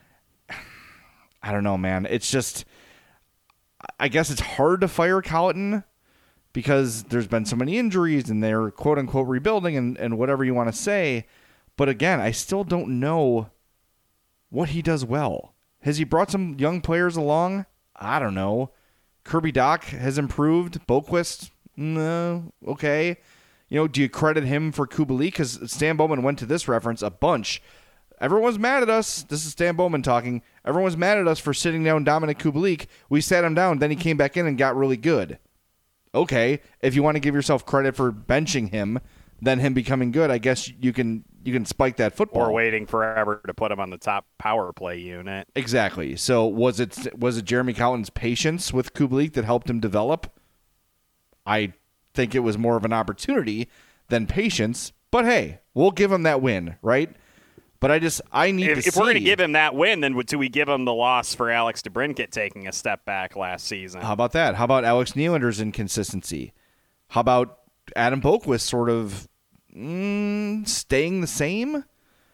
Speaker 2: I don't know, man. It's just, I guess it's hard to fire Colliton because there's been so many injuries and they're quote unquote rebuilding and whatever you want to say. But again, I still don't know what he does well. Has he brought some young players along? I don't know. Kirby Dach has improved. Boqvist, no, okay. Do you credit him for Kubalik? Because Stan Bowman went to this reference a bunch. Everyone's mad at us. This is Stan Bowman talking. Everyone's mad at us for sitting down Dominic Kubalik. We sat him down, then he came back in and got really good. Okay, if you want to give yourself credit for benching him, then him becoming good, I guess you can spike that football.
Speaker 4: Or waiting forever to put him on the top power play unit.
Speaker 2: Exactly. So was it Jeremy Colliton's patience with Kubalik that helped him develop? I think it was more of an opportunity than patience. But hey, we'll give him that win, right? But I need to see.
Speaker 4: If we're going to give him that win, then do we give him the loss for Alex DeBrincat taking a step back last season?
Speaker 2: How about that? How about Alex Nylander's inconsistency? How about Adam Boqvist sort of staying the same?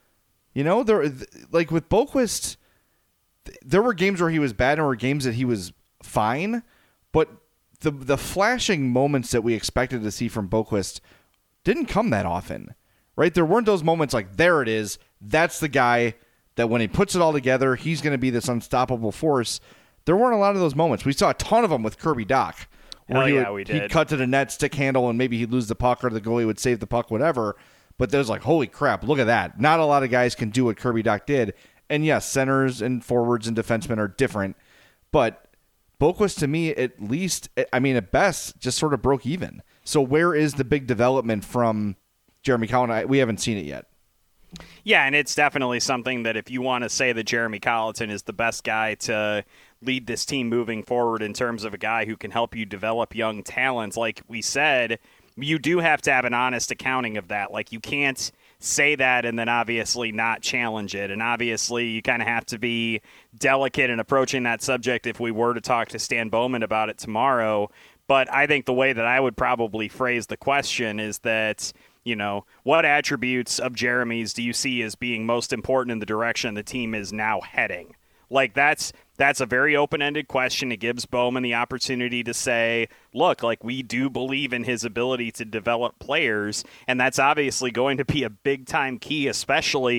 Speaker 2: Like with Boqvist, there were games where he was bad and there were games that he was fine, but the flashing moments that we expected to see from Boqvist didn't come that often, right? There weren't those moments like, there it is, that's the guy that when he puts it all together, he's going to be this unstoppable force. There weren't a lot of those moments. We saw a ton of them with Kirby Dach.
Speaker 4: We did.
Speaker 2: He'd cut to the net, stick handle, and maybe he'd lose the puck or the goalie would save the puck, whatever. But there's like, holy crap, look at that. Not a lot of guys can do what Kirby Dach did. And yes, centers and forwards and defensemen are different. But Boqvist, to me, at best, just sort of broke even. So where is the big development from Jeremy Colliton? We haven't seen it yet.
Speaker 4: Yeah, and it's definitely something that if you want to say that Jeremy Colliton is the best guy to lead this team moving forward in terms of a guy who can help you develop young talents, like we said, you do have to have an honest accounting of that. Like, you can't say that and then obviously not challenge it. And obviously you kind of have to be delicate in approaching that subject if we were to talk to Stan Bowman about it tomorrow. But I think the way that I would probably phrase the question is that, what attributes of Jeremy's do you see as being most important in the direction the team is now heading? Like, that's a very open-ended question. It gives Bowman the opportunity to say, look, like, we do believe in his ability to develop players, and that's obviously going to be a big-time key, especially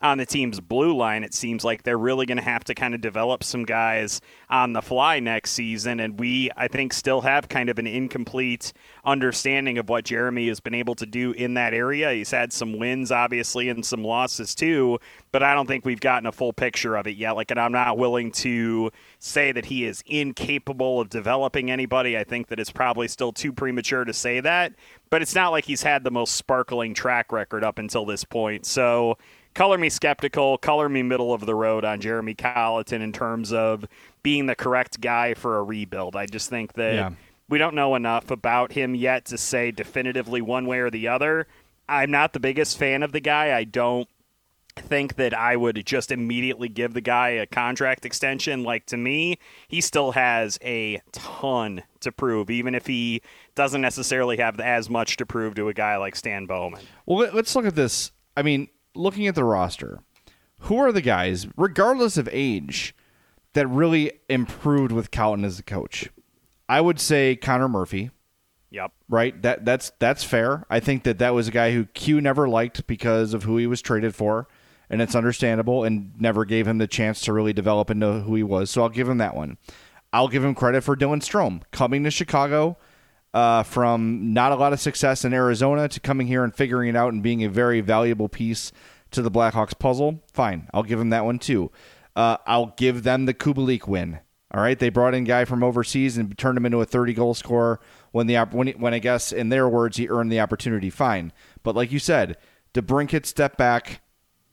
Speaker 4: on the team's blue line, it seems like they're really going to have to kind of develop some guys on the fly next season. And we, I think, still have kind of an incomplete understanding of what Jeremy has been able to do in that area. He's had some wins, obviously, and some losses too, but I don't think we've gotten a full picture of it yet. And I'm not willing to say that he is incapable of developing anybody. I think that it's probably still too premature to say that, but it's not like he's had the most sparkling track record up until this point. So color me skeptical, color me middle of the road on Jeremy Colliton in terms of being the correct guy for a rebuild. I just think that we don't know enough about him yet to say definitively one way or the other. I'm not the biggest fan of the guy. I don't think that I would just immediately give the guy a contract extension. Like, to me, he still has a ton to prove, even if he doesn't necessarily have as much to prove to a guy like Stan Bowman.
Speaker 2: Well, let's look at this. I mean, looking at the roster, who are the guys, regardless of age, that really improved with Colliton as a coach? I would say Connor Murphy.
Speaker 4: Yep.
Speaker 2: Right? That's fair. I think that was a guy who Q never liked because of who he was traded for, and it's understandable, and never gave him the chance to really develop and know who he was. So I'll give him that one. I'll give him credit for Dylan Strome coming to Chicago from not a lot of success in Arizona to coming here and figuring it out and being a very valuable piece to the Blackhawks puzzle. Fine. I'll give him that one too. I'll give them the Kubalik win. All right, they brought in a guy from overseas and turned him into a 30-goal scorer when I guess, in their words, he earned the opportunity. Fine. But like you said, DeBrincat step back.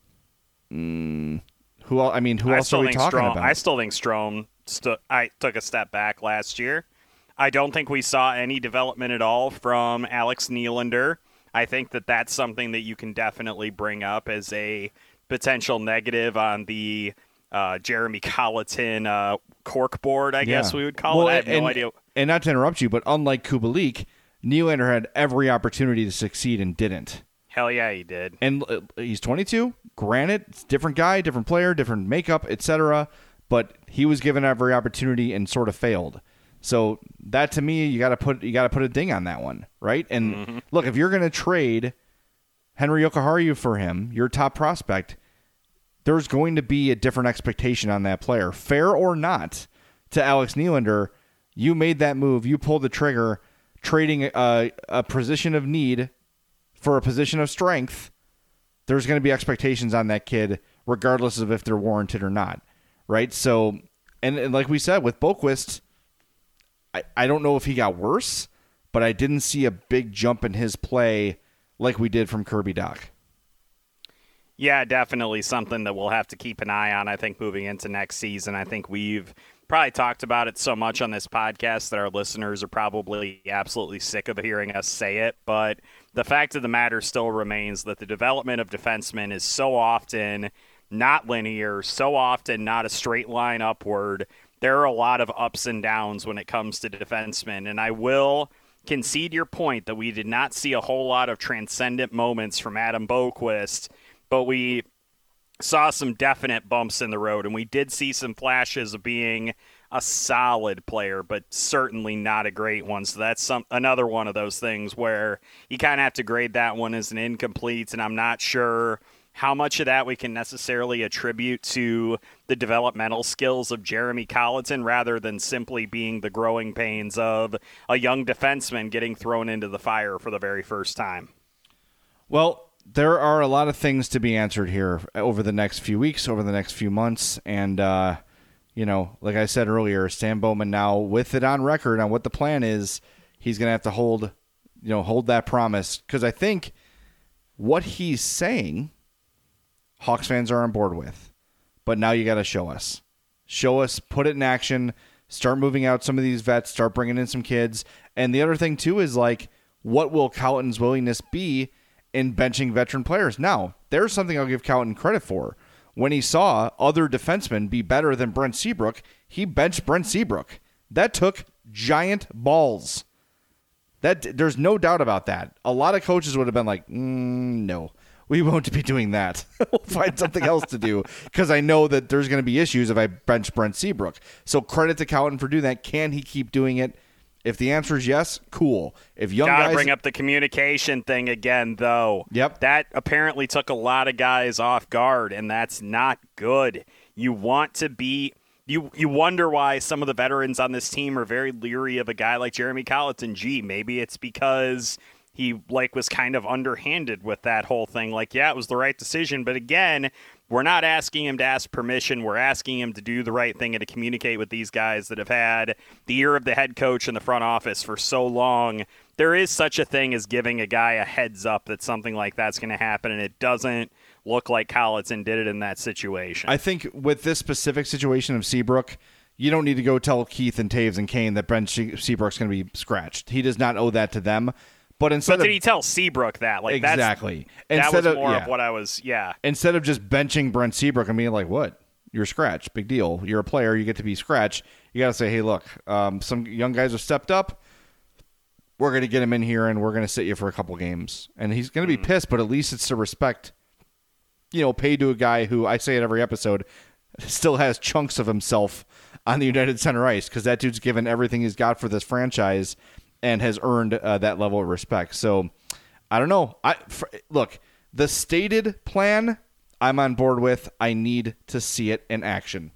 Speaker 2: Who else are we talking about?
Speaker 4: I still think Strome took a step back last year. I don't think we saw any development at all from Alex Nylander. I think that that's something that you can definitely bring up as a potential negative on the Jeremy Colliton corkboard, I guess we would call it. I have no idea. And
Speaker 2: not to interrupt you, but unlike Kubalik, Nylander had every opportunity to succeed and didn't.
Speaker 4: Hell yeah, he did.
Speaker 2: And he's 22. Granted, it's a different guy, different player, different makeup, etc. But he was given every opportunity and sort of failed. So that, to me, you got to put a ding on that one, right? And look, if you're going to trade Henry Jokiharju for him, your top prospect, there's going to be a different expectation on that player, fair or not. To Alex Nylander, you made that move, you pulled the trigger, trading a position of need for a position of strength. There's going to be expectations on that kid, regardless of if they're warranted or not, right? So, and like we said with Boqvist, I don't know if he got worse, but I didn't see a big jump in his play like we did from Kirby Dach.
Speaker 4: Yeah, definitely something that we'll have to keep an eye on, I think, moving into next season. I think we've probably talked about it so much on this podcast that our listeners are probably absolutely sick of hearing us say it. But the fact of the matter still remains that the development of defensemen is so often not linear, so often not a straight line upward. There are a lot of ups and downs when it comes to defensemen. And I will concede your point that we did not see a whole lot of transcendent moments from Adam Boqvist, but we saw some definite bumps in the road, and we did see some flashes of being a solid player, but certainly not a great one. So that's another one of those things where you kind of have to grade that one as an incomplete, and I'm not sure how much of that we can necessarily attribute to the developmental skills of Jeremy Colliton rather than simply being the growing pains of a young defenseman getting thrown into the fire for the very first time.
Speaker 2: Well, there are a lot of things to be answered here over the next few weeks, over the next few months. And, like I said earlier, Stan Bowman now with it on record on what the plan is, he's going to have to hold that promise. Because I think what he's saying, Hawks fans are on board with. But now you got to show us. Show us, put it in action, start moving out some of these vets, start bringing in some kids. And the other thing, too, is what will Colliton's willingness be in benching veteran players? Now, there's something I'll give Colliton credit for. When he saw other defensemen be better than Brent Seabrook, he benched Brent Seabrook. That took giant balls. There's no doubt about that. A lot of coaches would have been like, no, we won't be doing that. We'll find something else to do because I know that there's going to be issues if I bench Brent Seabrook. So credit to Colliton for doing that. Can he keep doing it? If the answer is yes, cool. If young
Speaker 4: Gotta
Speaker 2: guys
Speaker 4: bring up the communication thing again, though.
Speaker 2: Yep.
Speaker 4: That apparently took a lot of guys off guard, and that's not good. You want to be... You wonder why some of the veterans on this team are very leery of a guy like Jeremy Colleton. Gee, maybe it's because he was kind of underhanded with that whole thing. Yeah, it was the right decision, but again, we're not asking him to ask permission. We're asking him to do the right thing and to communicate with these guys that have had the ear of the head coach in the front office for so long. There is such a thing as giving a guy a heads up that something like that's going to happen, and it doesn't look like Colleton did it in that situation.
Speaker 2: I think with this specific situation of Seabrook, you don't need to go tell Keith and Taves and Kane that Ben Seabrook's going to be scratched. He does not owe that to them. But
Speaker 4: did he tell Seabrook that?
Speaker 2: Exactly.
Speaker 4: That was more of what I was,
Speaker 2: Instead of just benching Brent Seabrook and being like, what? You're scratched. Big deal. You're a player. You get to be scratched. You got to say, hey, look, some young guys have stepped up. We're going to get him in here, and we're going to sit you for a couple games. And he's going to be pissed, but at least it's to respect, paid to a guy who, I say it every episode, still has chunks of himself on the United Center ice because that dude's given everything he's got for this franchise and has earned that level of respect. So, I don't know. Look, the stated plan I'm on board with. I need to see it in action.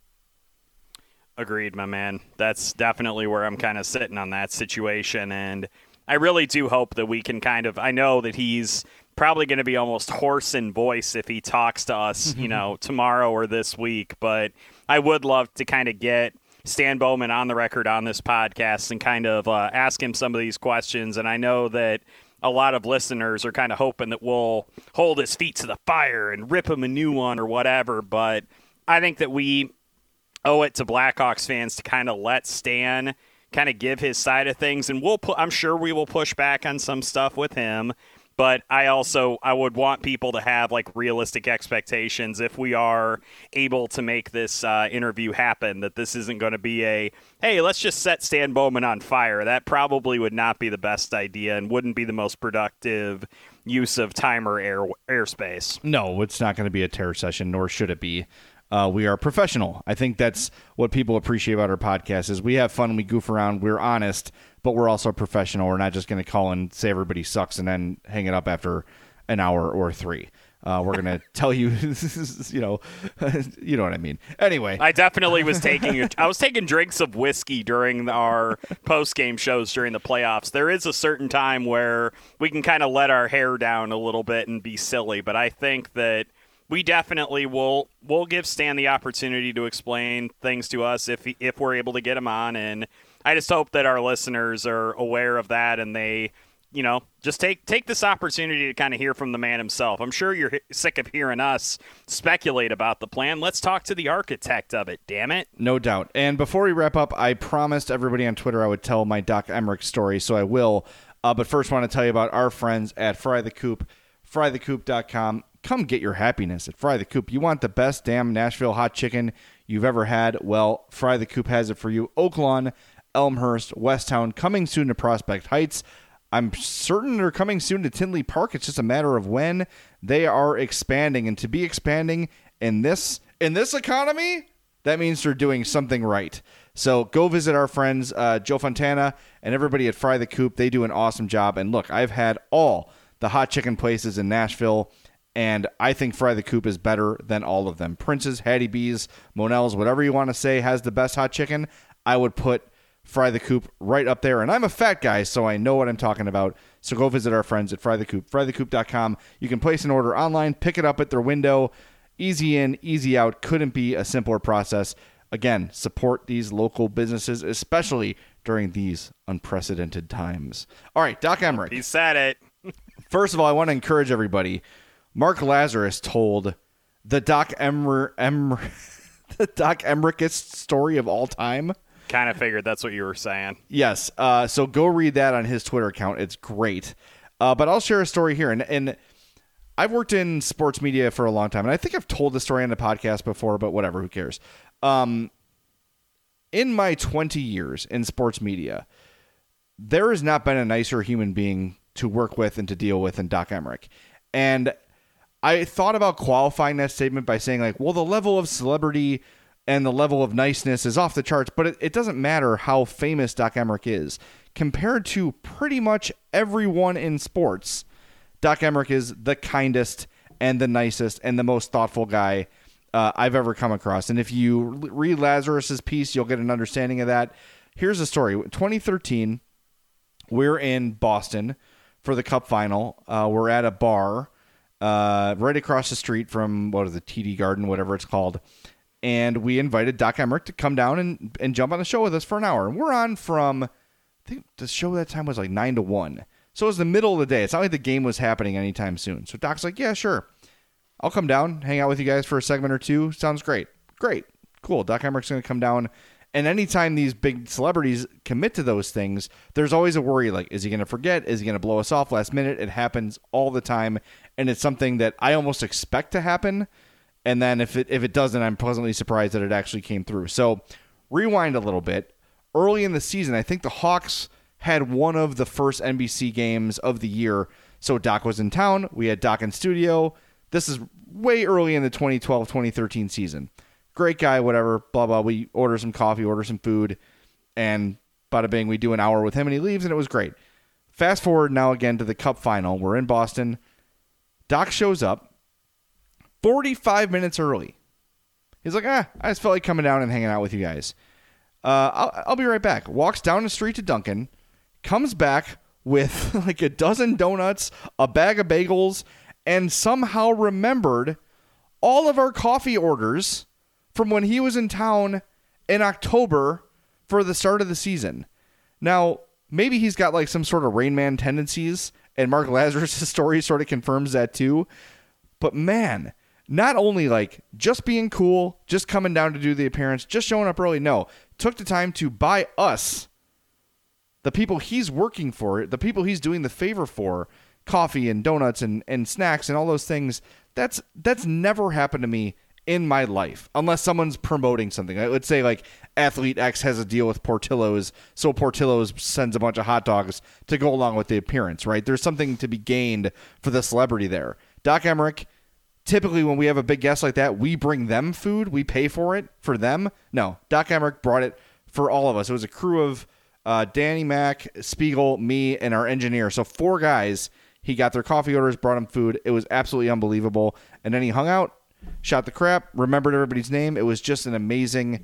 Speaker 4: Agreed, my man. That's definitely where I'm kind of sitting on that situation. And I really do hope that we can I know that he's probably going to be almost hoarse in voice if he talks to us, tomorrow or this week. But I would love to kind of get Stan Bowman on the record on this podcast and kind of ask him some of these questions. And I know that a lot of listeners are kind of hoping that we'll hold his feet to the fire and rip him a new one or whatever. But I think that we owe it to Blackhawks fans to kind of let Stan kind of give his side of things. And I'm sure we will push back on some stuff with him. But I would want people to have realistic expectations if we are able to make this interview happen, that this isn't going to be hey, let's just set Stan Bowman on fire. That probably would not be the best idea and wouldn't be the most productive use of time or airspace.
Speaker 2: No, it's not going to be a terror session, nor should it be. We are professional. I think that's what people appreciate about our podcast is we have fun, we goof around, we're honest, but we're also professional. We're not just going to call and say everybody sucks and then hang it up after an hour or three. We're going to tell you, you know what I mean. Anyway.
Speaker 4: I definitely was taking drinks of whiskey during our post-game shows during the playoffs. There is a certain time where we can kind of let our hair down a little bit and be silly, but I think that we definitely will give Stan the opportunity to explain things to us if we're able to get him on. And I just hope that our listeners are aware of that and they, just take this opportunity to kind of hear from the man himself. I'm sure you're sick of hearing us speculate about the plan. Let's talk to the architect of it, damn it.
Speaker 2: No doubt. And before we wrap up, I promised everybody on Twitter I would tell my Doc Emrick story, so I will. But first, want to tell you about our friends at Fry the Coop, frythecoop.com. Come get your happiness at Fry the Coop. You want the best damn Nashville hot chicken you've ever had? Well, Fry the Coop has it for you. Oak Lawn, Elmhurst, Westtown, coming soon to Prospect Heights. I'm certain they're coming soon to Tinley Park. It's just a matter of when. They are expanding, and to be expanding in this economy, that means they're doing something right. So go visit our friends Joe Fontana and everybody at Fry the Coop. They do an awesome job. And look, I've had all the hot chicken places in Nashville, and I think Fry the Coop is better than all of them. Prince's, Hattie B's, Monell's, whatever you want to say has the best hot chicken. I would put Fry the Coop right up there. And I'm a fat guy, so I know what I'm talking about. So go visit our friends at Fry the Coop, frythecoop.com. You can place an order online, pick it up at their window. Easy in, easy out. Couldn't be a simpler process. Again, support these local businesses, especially during these unprecedented times. All right, Doc Emrick.
Speaker 4: He said it.
Speaker 2: First of all, I want to encourage everybody. Mark Lazarus told the Doc Emrickest story of all time.
Speaker 4: Kind of figured that's what you were saying.
Speaker 2: Yes. So go read that on his Twitter account. It's great. But I'll share a story here. And I've worked in sports media for a long time. And I think I've told this story on the podcast before, but whatever, who cares? In my 20 years in sports media, there has not been a nicer human being to work with and to deal with than Doc Emrick. And I thought about qualifying that statement by saying, like, well, the level of celebrity and the level of niceness is off the charts, but it doesn't matter how famous Doc Emrick is. Compared to pretty much everyone in sports, Doc Emrick is the kindest and the nicest and the most thoughtful guy I've ever come across. And if you read Lazarus's piece, you'll get an understanding of that. Here's the story. 2013, we're in Boston for the Cup final. We're at a bar right across the street from, TD Garden, whatever it's called. And we invited Doc Emrick to come down and jump on the show with us for an hour. And we're on from, I think the show that time was like 9 to 1. So it was the middle of the day. It's not like the game was happening anytime soon. So Doc's like, yeah, sure. I'll come down, hang out with you guys for a segment or two. Sounds great. Great. Cool. Doc Emrick's going to come down. And anytime these big celebrities commit to those things, there's always a worry, like, is he going to forget? Is he going to blow us off last minute? It happens all the time. And it's something that I almost expect to happen. And then if it doesn't, I'm pleasantly surprised that it actually came through. So rewind a little bit. Early in the season, I think the Hawks had one of the first NBC games of the year. So Doc was in town. We had Doc in studio. This is way early in the 2012-2013 season. Great guy, whatever, blah, blah. We order some coffee, order some food, and bada bing, we do an hour with him, and he leaves, and it was great. Fast forward now again to the Cup final. We're in Boston. Doc shows up 45 minutes early. He's like, I just felt like coming down and hanging out with you guys. I'll be right back. Walks down the street to Dunkin', comes back with like a dozen donuts, a bag of bagels, and somehow remembered all of our coffee orders from when he was in town in October for the start of the season. Now, maybe he's got like some sort of Rain Man tendencies, and Mark Lazarus' story sort of confirms that too. But man, not only like just being cool, just coming down to do the appearance, just showing up early. No, took the time to buy us, the people he's working for, the people he's doing the favor for, coffee and donuts and snacks and all those things. That's never happened to me in my life, unless someone's promoting something. Let's say like athlete X has a deal with Portillo's, so Portillo's sends a bunch of hot dogs to go along with the appearance, right? There's something to be gained for the celebrity there. Doc Emrick, typically when we have a big guest like that, we bring them food, we pay for it for them. No, Doc Emrick brought it for all of us. It was a crew of Danny Mac, Spiegel, me, and our engineer. So 4 guys. He got their coffee orders, brought them food. It was absolutely unbelievable. And then he hung out, shot the crap, remembered everybody's name. It was just an amazing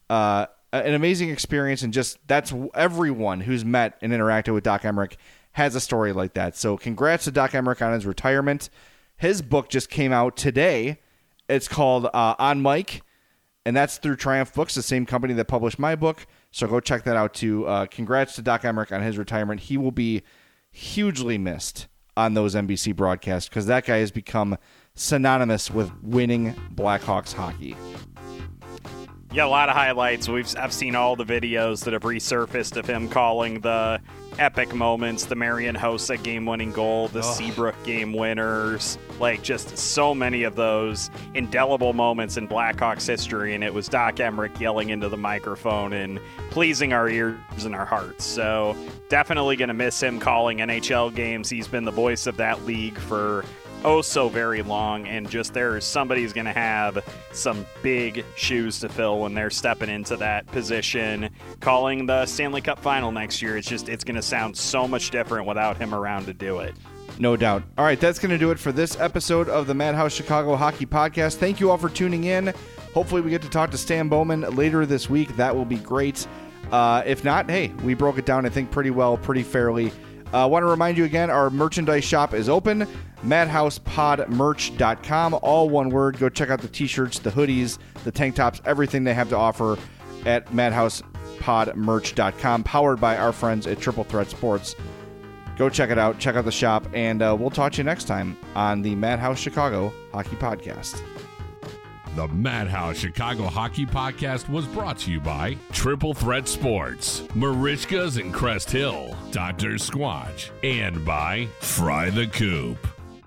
Speaker 2: experience. And just that's everyone who's met and interacted with Doc Emrick has a story like that. So congrats to Doc Emrick on his retirement. His book just came out today. It's called On Mike, and that's through Triumph Books, the same company that published my book. So go check that out too. Congrats to Doc Emrick on his retirement. He will be hugely missed on those NBC broadcasts because that guy has become synonymous with winning Blackhawks hockey.
Speaker 4: Yeah, a lot of highlights. I've seen all the videos that have resurfaced of him calling the epic moments, the Marian Hossa game-winning goal, the Seabrook game winners, like just so many of those indelible moments in Blackhawks history, and it was Doc Emrick yelling into the microphone and pleasing our ears and our hearts. So definitely going to miss him calling NHL games. He's been the voice of that league for so very long, and just somebody's going to have some big shoes to fill when they're stepping into that position calling the Stanley Cup final next year. It's going to sound so much different without him around to do it.
Speaker 2: No doubt. All right, that's going to do it for this episode of the Madhouse Chicago Hockey Podcast. Thank you all for tuning in. Hopefully we get to talk to Stan Bowman later this week. That will be great. If not, hey, we broke it down, I think, pretty well, pretty fairly. I want to remind you again, our merchandise shop is open, madhousepodmerch.com, all one word. Go check out the t-shirts, the hoodies, the tank tops, everything they have to offer at madhousepodmerch.com, powered by our friends at Triple Threat Sports. Go check it out, check out the shop, and we'll talk to you next time on the Madhouse Chicago Hockey Podcast.
Speaker 3: The Madhouse Chicago Hockey Podcast was brought to you by Triple Threat Sports, Marishkas and Crest Hill, Dr. Squatch, and by Fry the Coop.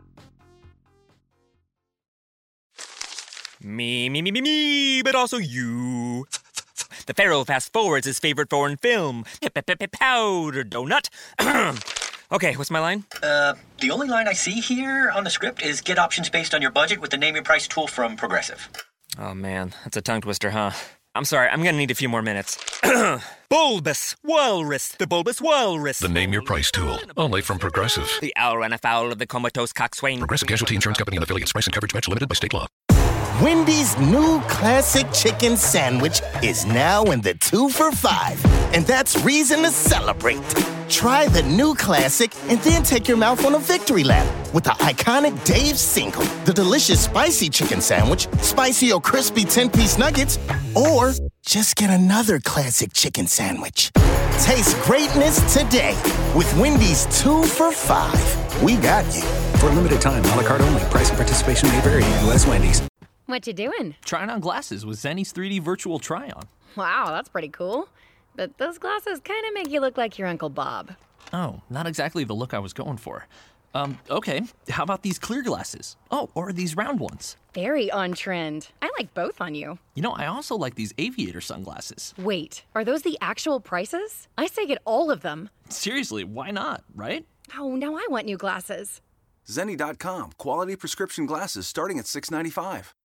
Speaker 5: Me, but also you. The Pharaoh fast forwards his favorite foreign film, Powder Donut. Okay, what's my line?
Speaker 6: The only line I see here on the script is get options based on your budget with the Name Your Price tool from Progressive.
Speaker 5: Oh, man, that's a tongue twister, huh? I'm sorry, I'm gonna need a few more minutes. Bulbous Walrus, the Bulbous Walrus.
Speaker 6: The Name Your Price tool, only from Progressive.
Speaker 5: The owl ran afoul of the comatose coxswain.
Speaker 6: Progressive Casualty Insurance Company and affiliates. Price and coverage match limited by state law.
Speaker 7: Wendy's new classic chicken sandwich is now in the 2 for $5, and that's reason to celebrate. Try the new classic and then take your mouth on a victory lap with the iconic Dave's Single, the delicious spicy chicken sandwich, spicy or crispy 10-piece nuggets, or just get another classic chicken sandwich. Taste greatness today with Wendy's 2 for $5. We got you.
Speaker 8: For a limited time, a la carte only. Price and participation may vary. U.S. Wendy's.
Speaker 9: What you doing?
Speaker 10: Trying on glasses with Zenny's 3D virtual try-on.
Speaker 9: Wow, that's pretty cool. But those glasses kind of make you look like your Uncle Bob.
Speaker 10: Oh, not exactly the look I was going for. Okay, how about these clear glasses? Oh, or these round ones.
Speaker 9: Very on trend. I like both on you.
Speaker 10: You know, I also like these aviator sunglasses.
Speaker 9: Wait, are those the actual prices? I say get all of them.
Speaker 10: Seriously, why not, right?
Speaker 9: Oh, now I want new glasses.
Speaker 11: Zenni.com. Quality prescription glasses starting at $6.95.